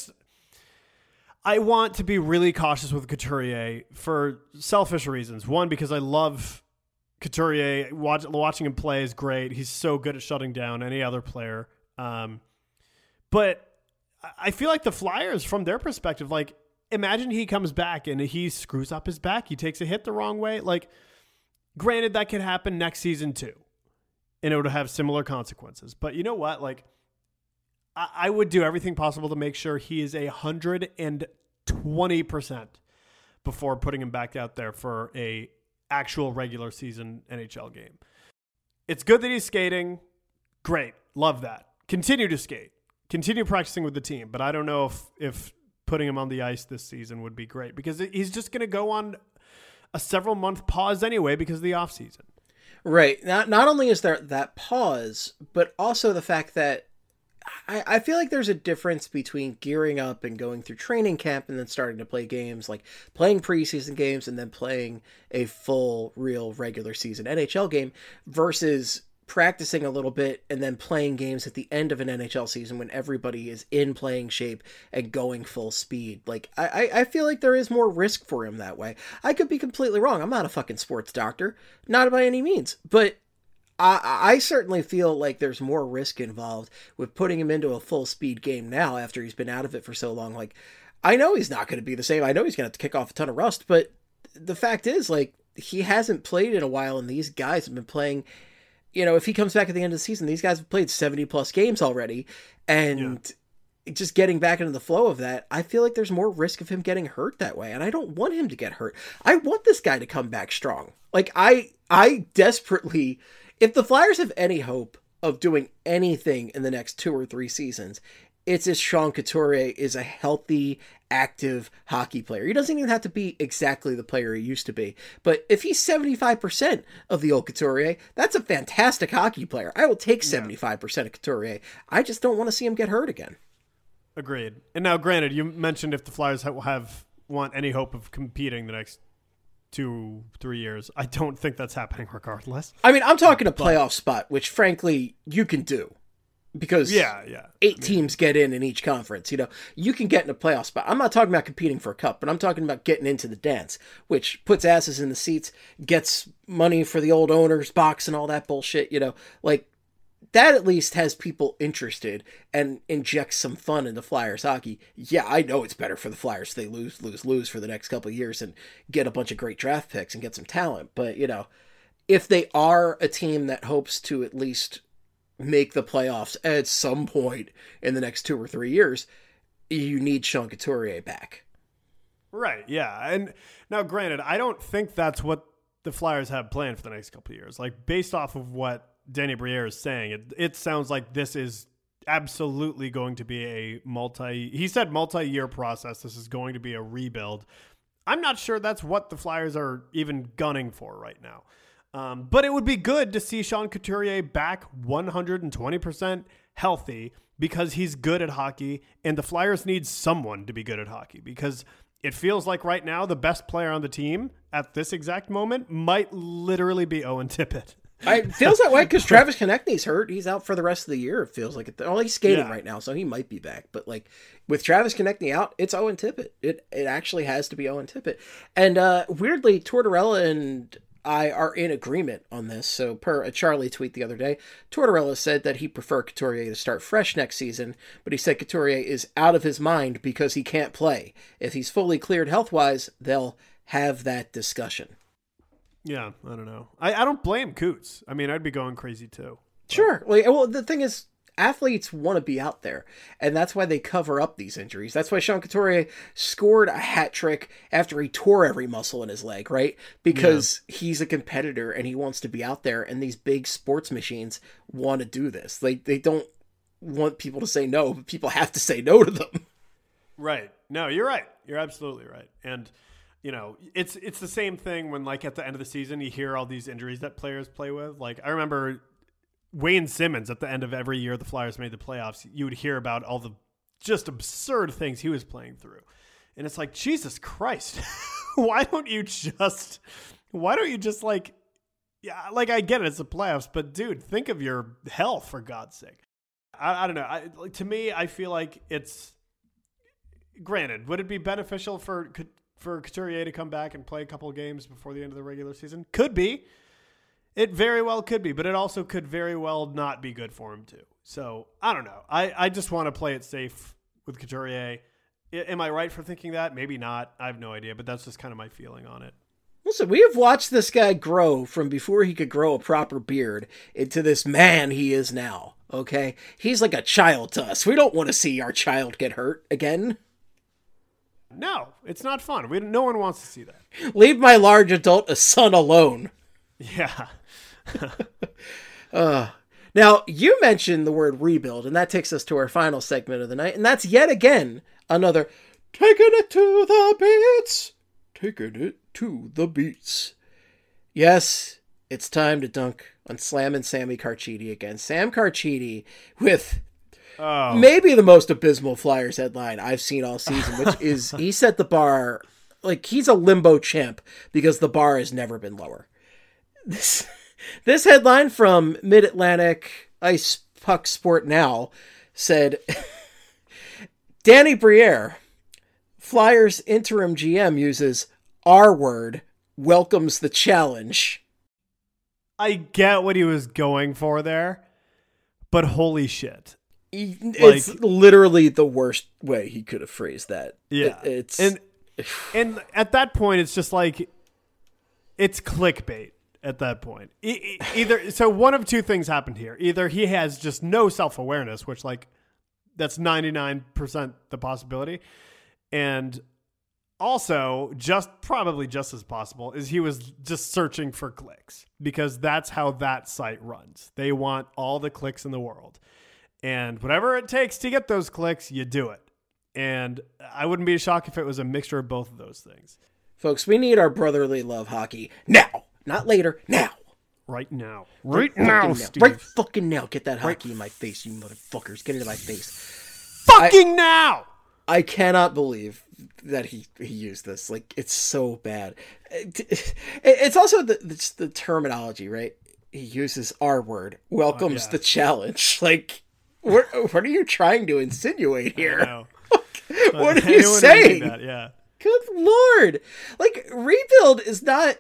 want to be really cautious with Couturier for selfish reasons. One, because I love Couturier. Watching him play is great. He's so good at shutting down any other player. But I feel like the Flyers, from their perspective, like, imagine he comes back and he screws up his back. He takes a hit the wrong way. Like, granted, that could happen next season too, and it would have similar consequences. But you know what? Like, I would do everything possible to make sure he is 120% before putting him back out there for a actual regular season NHL game. It's good that he's skating. Great. Love that. Continue to skate. Continue practicing with the team. But I don't know if putting him on the ice this season would be great, because he's just going to go on a several-month pause anyway because of the offseason. Right. Not only is there that pause, but also the fact that I feel like there's a difference between gearing up and going through training camp and then starting to play games, like playing preseason games and then playing a full, real, regular season NHL game, versus practicing a little bit and then playing games at the end of an NHL season when everybody is in playing shape and going full speed. Like, I feel like there is more risk for him that way. I could be completely wrong. I'm not a fucking sports doctor, not by any means, but I certainly feel like there's more risk involved with putting him into a full speed game now after he's been out of it for so long. Like, I know he's not going to be the same. I know he's going to have to kick off a ton of rust, but the fact is, like, he hasn't played in a while, and these guys have been playing. You know, if he comes back at the end of the season, these guys have played 70 plus games already, and just getting back into the flow of that, I feel like there's more risk of him getting hurt that way. And I don't want him to get hurt. I want this guy to come back strong. Like, I desperately, if the Flyers have any hope of doing anything in the next 2 or 3 seasons, it's if Sean Couturier is a healthy, active hockey player. He doesn't even have to be exactly the player he used to be. But if he's 75% of the old Couturier, that's a fantastic hockey player. I will take 75% of Couturier. I just don't want to see him get hurt again. Agreed. And now, granted, you mentioned if the Flyers want any hope of competing the next 2-3 years. I don't think that's happening regardless. I mean, I'm talking a playoff spot, which frankly you can do. Because 8 teams get in each conference. You know, you can get in a playoff spot. I'm not talking about competing for a cup, but I'm talking about getting into the dance, which puts asses in the seats, gets money for the old owner's box and all that bullshit. You know, like, that at least has people interested and injects some fun into Flyers hockey. Yeah, I know it's better for the Flyers if they lose for the next couple of years and get a bunch of great draft picks and get some talent. But, you know, if they are a team that hopes to at least make the playoffs at some point in the next 2 or 3 years, you need Sean Couturier back. Right, yeah. And now, granted, I don't think that's what the Flyers have planned for the next couple of years. Like, based off of what Danny Briere is saying, it sounds like this is absolutely going to be a multi-year process. This is going to be a rebuild. I'm not sure that's what the Flyers are even gunning for right now. But it would be good to see Sean Couturier back 120% healthy, because he's good at hockey, and the Flyers need someone to be good at hockey, because it feels like right now the best player on the team at this exact moment might literally be Owen Tippett. It feels that way because Travis Konechny's hurt. He's out for the rest of the year. It feels like he's skating right now, so he might be back. But like with Travis Konechny out, it's Owen Tippett. It actually has to be Owen Tippett. And weirdly, Tortorella and I are in agreement on this. So per a Charlie tweet the other day, Tortorella said that he prefer Couturier to start fresh next season, but he said Couturier is out of his mind because he can't play. If he's fully cleared health-wise, they'll have that discussion. Yeah, I don't know. I don't blame Coots. I mean, I'd be going crazy too. Sure. Well, the thing is, athletes want to be out there, and that's why they cover up these injuries. That's why Sean Couturier scored a hat trick after he tore every muscle in his leg, right? Because he's a competitor and he wants to be out there, and these big sports machines want to do this. They don't want people to say no, but people have to say no to them. Right. No, you're right. You're absolutely right. And you know, it's the same thing when, like, at the end of the season, you hear all these injuries that players play with. Like, I remember Wayne Simmons at the end of every year the Flyers made the playoffs, you would hear about all the just absurd things he was playing through. And it's like, Jesus Christ, why don't you just like, yeah, like, I get it, it's the playoffs, but dude, think of your health for God's sake. I don't know. To me, I feel like it's, granted, would it be beneficial for Couturier to come back and play a couple of games before the end of the regular season? Could be. It very well could be, but it also could very well not be good for him too. So I don't know. I just want to play it safe with Couturier. Am I right for thinking that? Maybe not. I have no idea, but that's just kind of my feeling on it. Listen, we have watched this guy grow from before he could grow a proper beard into this man he is now. Okay? He's like a child to us. We don't want to see our child get hurt again. No, it's not fun. No one wants to see that. Leave my large adult son alone. Yeah. Now, you mentioned the word rebuild, and that takes us to our final segment of the night, and that's yet again another taking it to the beats. Taking it to the beats. Yes, it's time to dunk on Slam and Sammy Carchidi again. Sam Carchidi with maybe the most abysmal Flyers headline I've seen all season, which is he set the bar, like he's a limbo champ because the bar has never been lower. This headline from Mid-Atlantic Ice Puck Sport Now said, Danny Briere, Flyers interim GM, uses R word, welcomes the challenge. I get what he was going for there, but holy shit. It's literally the worst way he could have phrased that. Yeah. And at that point, it's just like, it's clickbait at that point. So one of two things happened here. Either he has just no self-awareness, which, like, that's 99% the possibility. And also, probably just as possible, is he was just searching for clicks, because that's how that site runs. They want all the clicks in the world. And whatever it takes to get those clicks, you do it. And I wouldn't be shocked if it was a mixture of both of those things. Folks, we need our brotherly love hockey now, not later, now. Right now. Right now, Steve. Right fucking now. Get that hockey in my face, you motherfuckers. Get into my face. Fucking now! I cannot believe that he used this. Like, it's so bad. It's also the terminology, right? He uses R word, welcomes the challenge. Like, what are you trying to insinuate here? What are you saying? Yeah. Good Lord. Like, rebuild is not...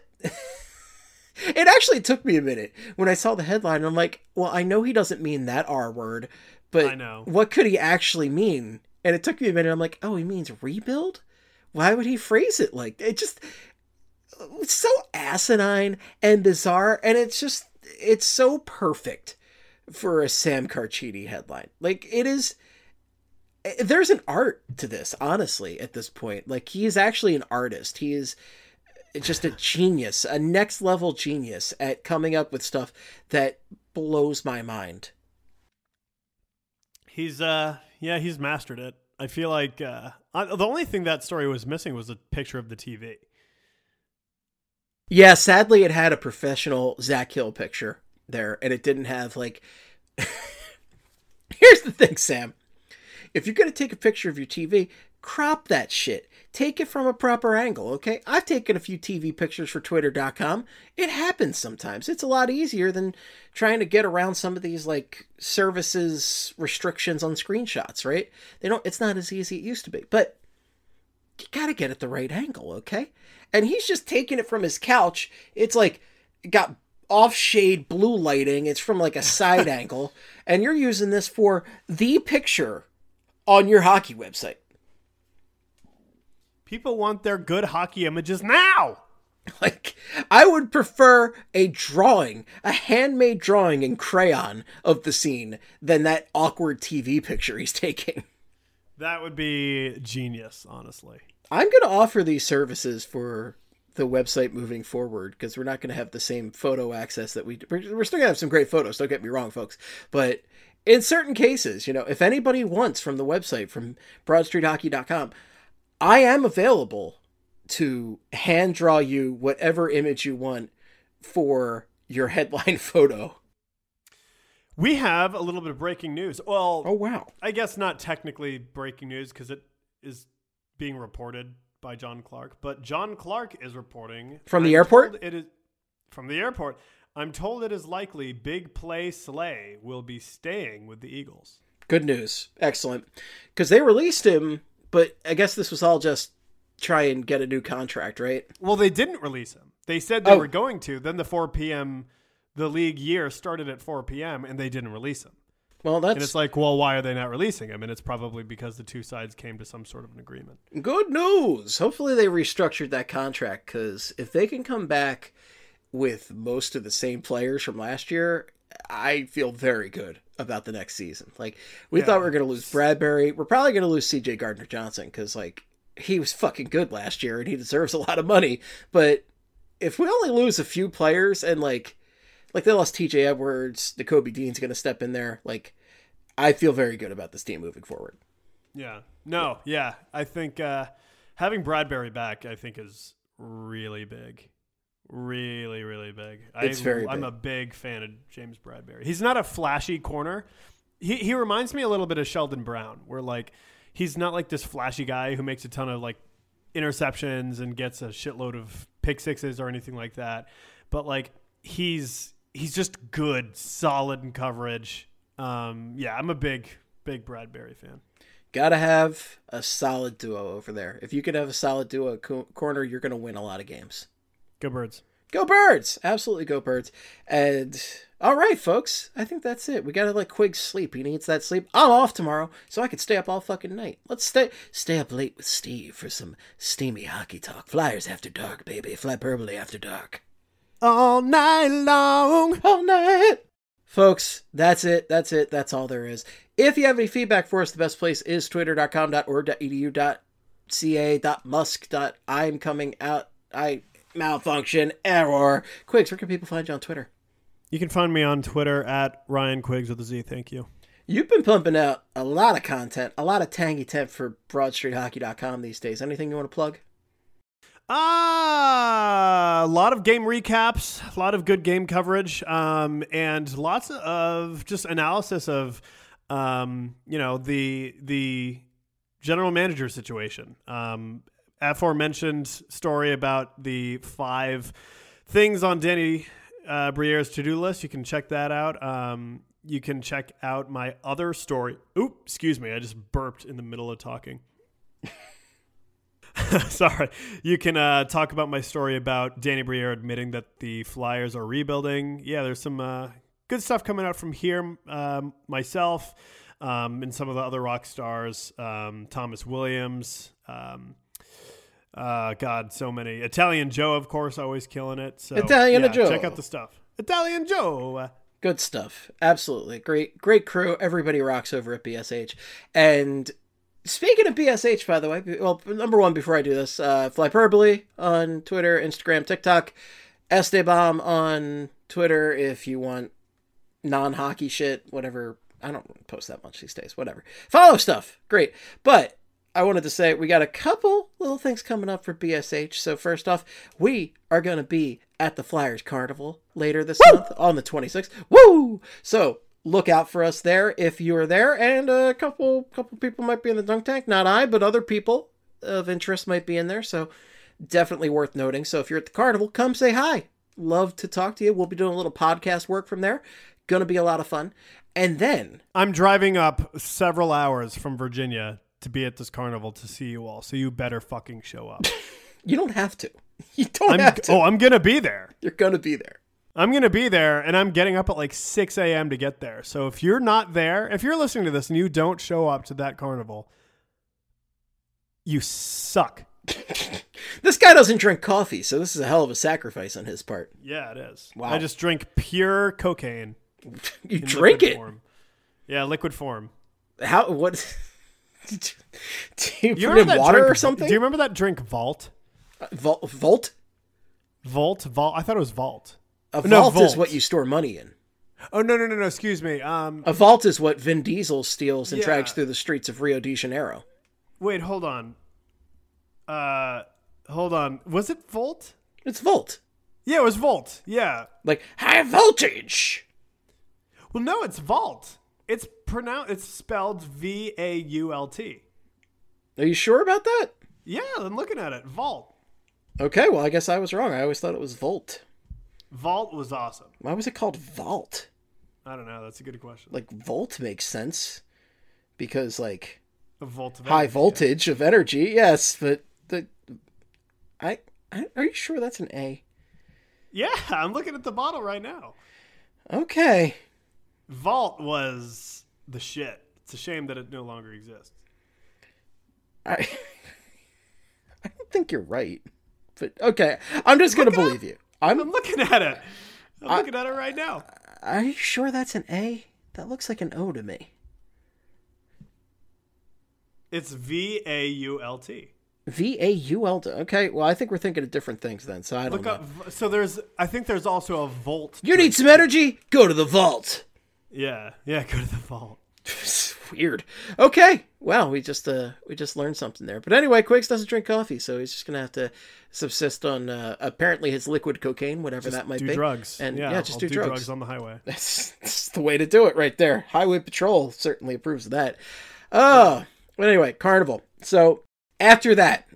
It actually took me a minute when I saw the headline. I'm like, well, I know he doesn't mean that R word, but I know. What could he actually mean? And it took me a minute. I'm like, oh, he means rebuild? Why would he phrase it like that? It's so asinine and bizarre, and it's so perfect for a Sam Carchidi headline. Like, it is... There's an art to this, honestly, at this point. Like, he is actually an artist. He is just a genius, a next level genius at coming up with stuff that blows my mind. He's mastered it. I feel like the only thing that story was missing was a picture of the TV. Yeah, sadly, it had a professional Zach Hill picture there, and it didn't have, like... Here's the thing, Sam. If you're going to take a picture of your TV, crop that shit. Take it from a proper angle, okay? I've taken a few TV pictures for Twitter.com. It happens sometimes. It's a lot easier than trying to get around some of these, like, services restrictions on screenshots, right? It's not as easy as it used to be. But you got to get it the right angle, okay? And he's just taking it from his couch. It's like got off-shade blue lighting. It's from like a side angle. And you're using this for the picture on your hockey website. People want their good hockey images now. Like, I would prefer a drawing, a handmade drawing in crayon of the scene than that awkward TV picture he's taking. That would be genius, honestly. I'm going to offer these services for the website moving forward because we're not going to have the same photo access that we're still going to have some great photos. Don't get me wrong, folks. But in certain cases, if anybody wants from the website, from BroadStreetHockey.com, I am available to hand draw you whatever image you want for your headline photo. We have a little bit of breaking news. Well, oh wow. I guess not technically breaking news because it is being reported by John Clark, but John Clark is reporting from the airport. It is from the airport. I'm told it is likely Big Play Slay will be staying with the Eagles. Good news. Excellent. Because they released him, but I guess this was all just try and get a new contract, right? Well, they didn't release him. They said they were going to. Then the 4 p.m., the league year started at 4 p.m., and they didn't release him. Well, and it's like, well, why are they not releasing him? And it's probably because the two sides came to some sort of an agreement. Good news. Hopefully they restructured that contract, because if they can come back with most of the same players from last year, I feel very good about the next season. Like, we thought we were going to lose Bradbury. We're probably going to lose C.J. Gardner-Johnson, because, like, he was fucking good last year and he deserves a lot of money. But if we only lose a few players and like they lost TJ Edwards, Nakobe Dean's going to step in there. Like, I feel very good about this team moving forward. Yeah. No. Yeah. I think having Bradbury back, I think is really big. Really, really big. I'm a big fan of James Bradbury. He's not a flashy corner. He reminds me a little bit of Sheldon Brown, where like, he's not like this flashy guy who makes a ton of like interceptions and gets a shitload of pick sixes or anything like that. But like he's just good, solid in coverage. Yeah, I'm a big Bradbury fan. Gotta have a solid duo over there. If you could have a solid duo corner, you're going to win a lot of games. Go Birds. Go Birds. Absolutely go Birds. And all right, folks, I think that's it. We got to let Quiggs sleep. He needs that sleep. I'm off tomorrow, so I can stay up all fucking night. Let's stay up late with Steve for some steamy hockey talk. Flyers after dark, baby. Flyperbole after dark. All night long. All night. Folks, that's it. That's all there is. If you have any feedback for us, the best place is twitter.com.org.edu.ca.musk.I'm coming out. Malfunction, error. Quiggs, where can people find you on Twitter? You can find me on Twitter at Ryan Quiggs with a Z. Thank you. You've been pumping out a lot of content, a lot of tangy temp for BroadStreetHockey.com these days. Anything you want to plug? A lot of game recaps, a lot of good game coverage, and lots of just analysis of, the general manager situation. Aforementioned story about the 5 things on Danny Briere's to-do list. You can check that out. You can check out my other story. Oop, excuse me. I just burped in the middle of talking. Sorry. You can talk about my story about Danny Briere admitting that the Flyers are rebuilding. Yeah, there's some good stuff coming out from here. Myself and some of the other rock stars. Thomas Williams. God, so many. Italian Joe, of course, always killing it. So Italian Joe. Check out the stuff. Italian Joe. Good stuff. Absolutely. Great crew. Everybody rocks over at BSH. And speaking of BSH, by the way, well, number one, before I do this, Flyperbole on Twitter, Instagram, TikTok, Esteban on Twitter if you want non-hockey shit, whatever. I don't post that much these days. Whatever. Follow stuff. Great. But I wanted to say we got a couple little things coming up for BSH. So first off, we are going to be at the Flyers Carnival later this month on the 26th. Woo! So look out for us there if you're there. And a couple people might be in the dunk tank. Not I, but other people of interest might be in there. So definitely worth noting. So if you're at the Carnival, come say hi. Love to talk to you. We'll be doing a little podcast work from there. Going to be a lot of fun. And then I'm driving up several hours from Virginia to be at this carnival to see you all. So you better fucking show up. You don't have to. You don't have to. Oh, I'm going to be there. You're going to be there. I'm going to be there, and I'm getting up at like 6 a.m. to get there. So if you're not there, if you're listening to this and you don't show up to that carnival, you suck. This guy doesn't drink coffee, so this is a hell of a sacrifice on his part. Yeah, it is. Wow. I just drink pure cocaine. You drink it? Form. Yeah, liquid form. How? What? Do you put in that water drink, or something? Do you remember that drink Vault? Volt? Vault? I thought it was Vault. A vault is what you store money in. Oh, no. Excuse me. A vault is what Vin Diesel steals and drags through the streets of Rio de Janeiro. Wait, hold on. Was it Volt? It's Volt. Yeah, it was Volt. Yeah. Like high voltage. Well, no, it's Vault. It's spelled Vault. Are you sure about that? Yeah, I'm looking at it. Vault. Okay, well, I guess I was wrong. I always thought it was Volt. Vault was awesome. Why was it called Vault? I don't know. That's a good question. Like, Volt makes sense. Because, like, a volt of high energy, voltage of energy, yes, but are you sure that's an A? Yeah, I'm looking at the bottle right now. Okay. Vault was the shit. It's a shame that it no longer exists. I don't think you're right. But, okay, I'm just going to believe you. I'm looking at it. I'm looking at it right now. Are you sure that's an A? That looks like an O to me. It's Vault. Vault. Okay, well, I think we're thinking of different things then, so I don't know. So I think there's also a Volt. You need some energy? Go to the vault. Yeah, go to the vault. Weird. Okay. Wow, we just learned something there. But anyway, Quiggs doesn't drink coffee, so he's just gonna have to subsist on apparently his liquid cocaine, whatever that might be. Drugs. And just do do drugs. drugs on the highway. That's the way to do it right there. Highway Patrol certainly approves of that. But anyway, Carnival. So after that,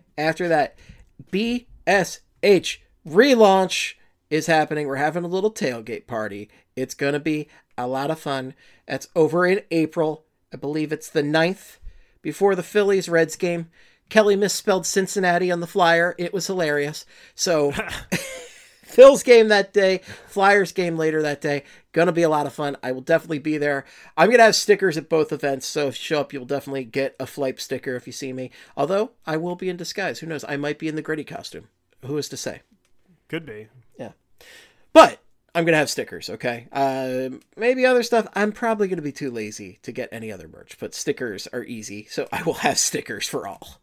BSH relaunch is happening. We're having a little tailgate party. It's going to be a lot of fun. That's over in April. I believe it's the 9th, before the Phillies-Reds game. Kelly misspelled Cincinnati on the flyer. It was hilarious. So Phil's game that day, Flyers game later that day. Gonna be a lot of fun. I will definitely be there. I'm going to have stickers at both events, so if you show up, you'll definitely get a Flipe sticker if you see me. Although, I will be in disguise. Who knows? I might be in the Gritty costume. Who is to say? Could be. Yeah. But I'm going to have stickers, okay? Maybe other stuff. I'm probably going to be too lazy to get any other merch, but stickers are easy, so I will have stickers for all.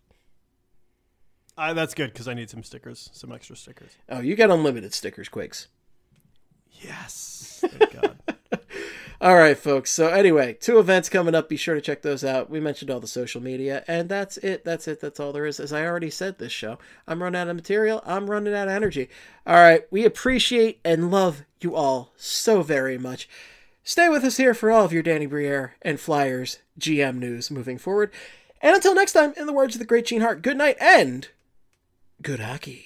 That's good, because I need some stickers, some extra stickers. Oh, you get unlimited stickers, Quiggs. Yes. Thank God. All right, folks. So anyway, 2 events coming up. Be sure to check those out. We mentioned all the social media, and that's it. That's all there is. As I already said this show, I'm running out of material. I'm running out of energy. All right. We appreciate and love you all so very much. Stay with us here for all of your Danny Briere and Flyers GM news moving forward. And until next time, in the words of the great Gene Hart, good night and good hockey.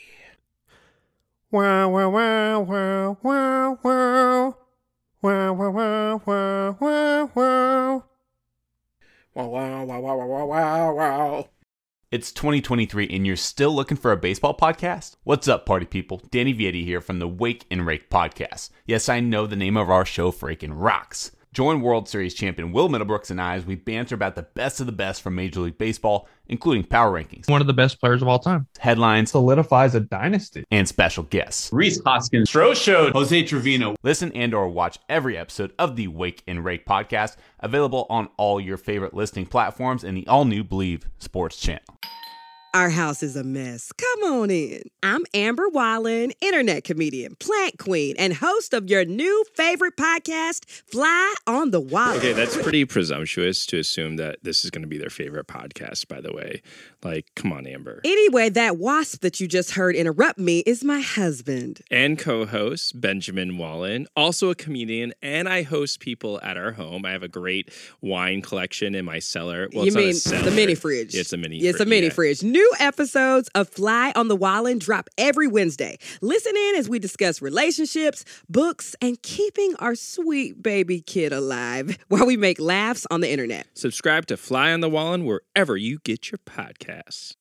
Wow, wow, wow, wow, wow, wow. Wow, wow, wow, wow, wow, wow. Wow, wow, wow, wow, wow, wow, wow. It's 2023 and you're still looking for a baseball podcast? What's up, party people? Danny Vietti here from the Wake and Rake podcast. Yes, I know the name of our show freaking rocks. Join World Series champion Will Middlebrooks and I as we banter about the best of the best from Major League Baseball, including power rankings, one of the best players of all time, headlines, solidifies a dynasty, and special guests. Rhys Hoskins, Stroh showed Jose Trevino. Listen and or watch every episode of the Wake and Rake podcast, available on all your favorite listening platforms and the all-new Believe Sports channel. Our house is a mess. Come on in. I'm Amber Wallen, internet comedian, plant queen, and host of your new favorite podcast, Fly on the Wall. Okay, that's pretty presumptuous to assume that this is going to be their favorite podcast, by the way. Like, come on, Amber. Anyway, that wasp that you just heard interrupt me is my husband. And co-host, Benjamin Wallen, also a comedian, and I host people at our home. I have a great wine collection in my cellar. Well, you mean the mini fridge? It's a mini fridge. It's a mini fridge. New episodes of Fly on the Wallen drop every Wednesday. Listen in as we discuss relationships, books, and keeping our sweet baby kid alive while we make laughs on the internet. Subscribe to Fly on the Wallen wherever you get your podcasts.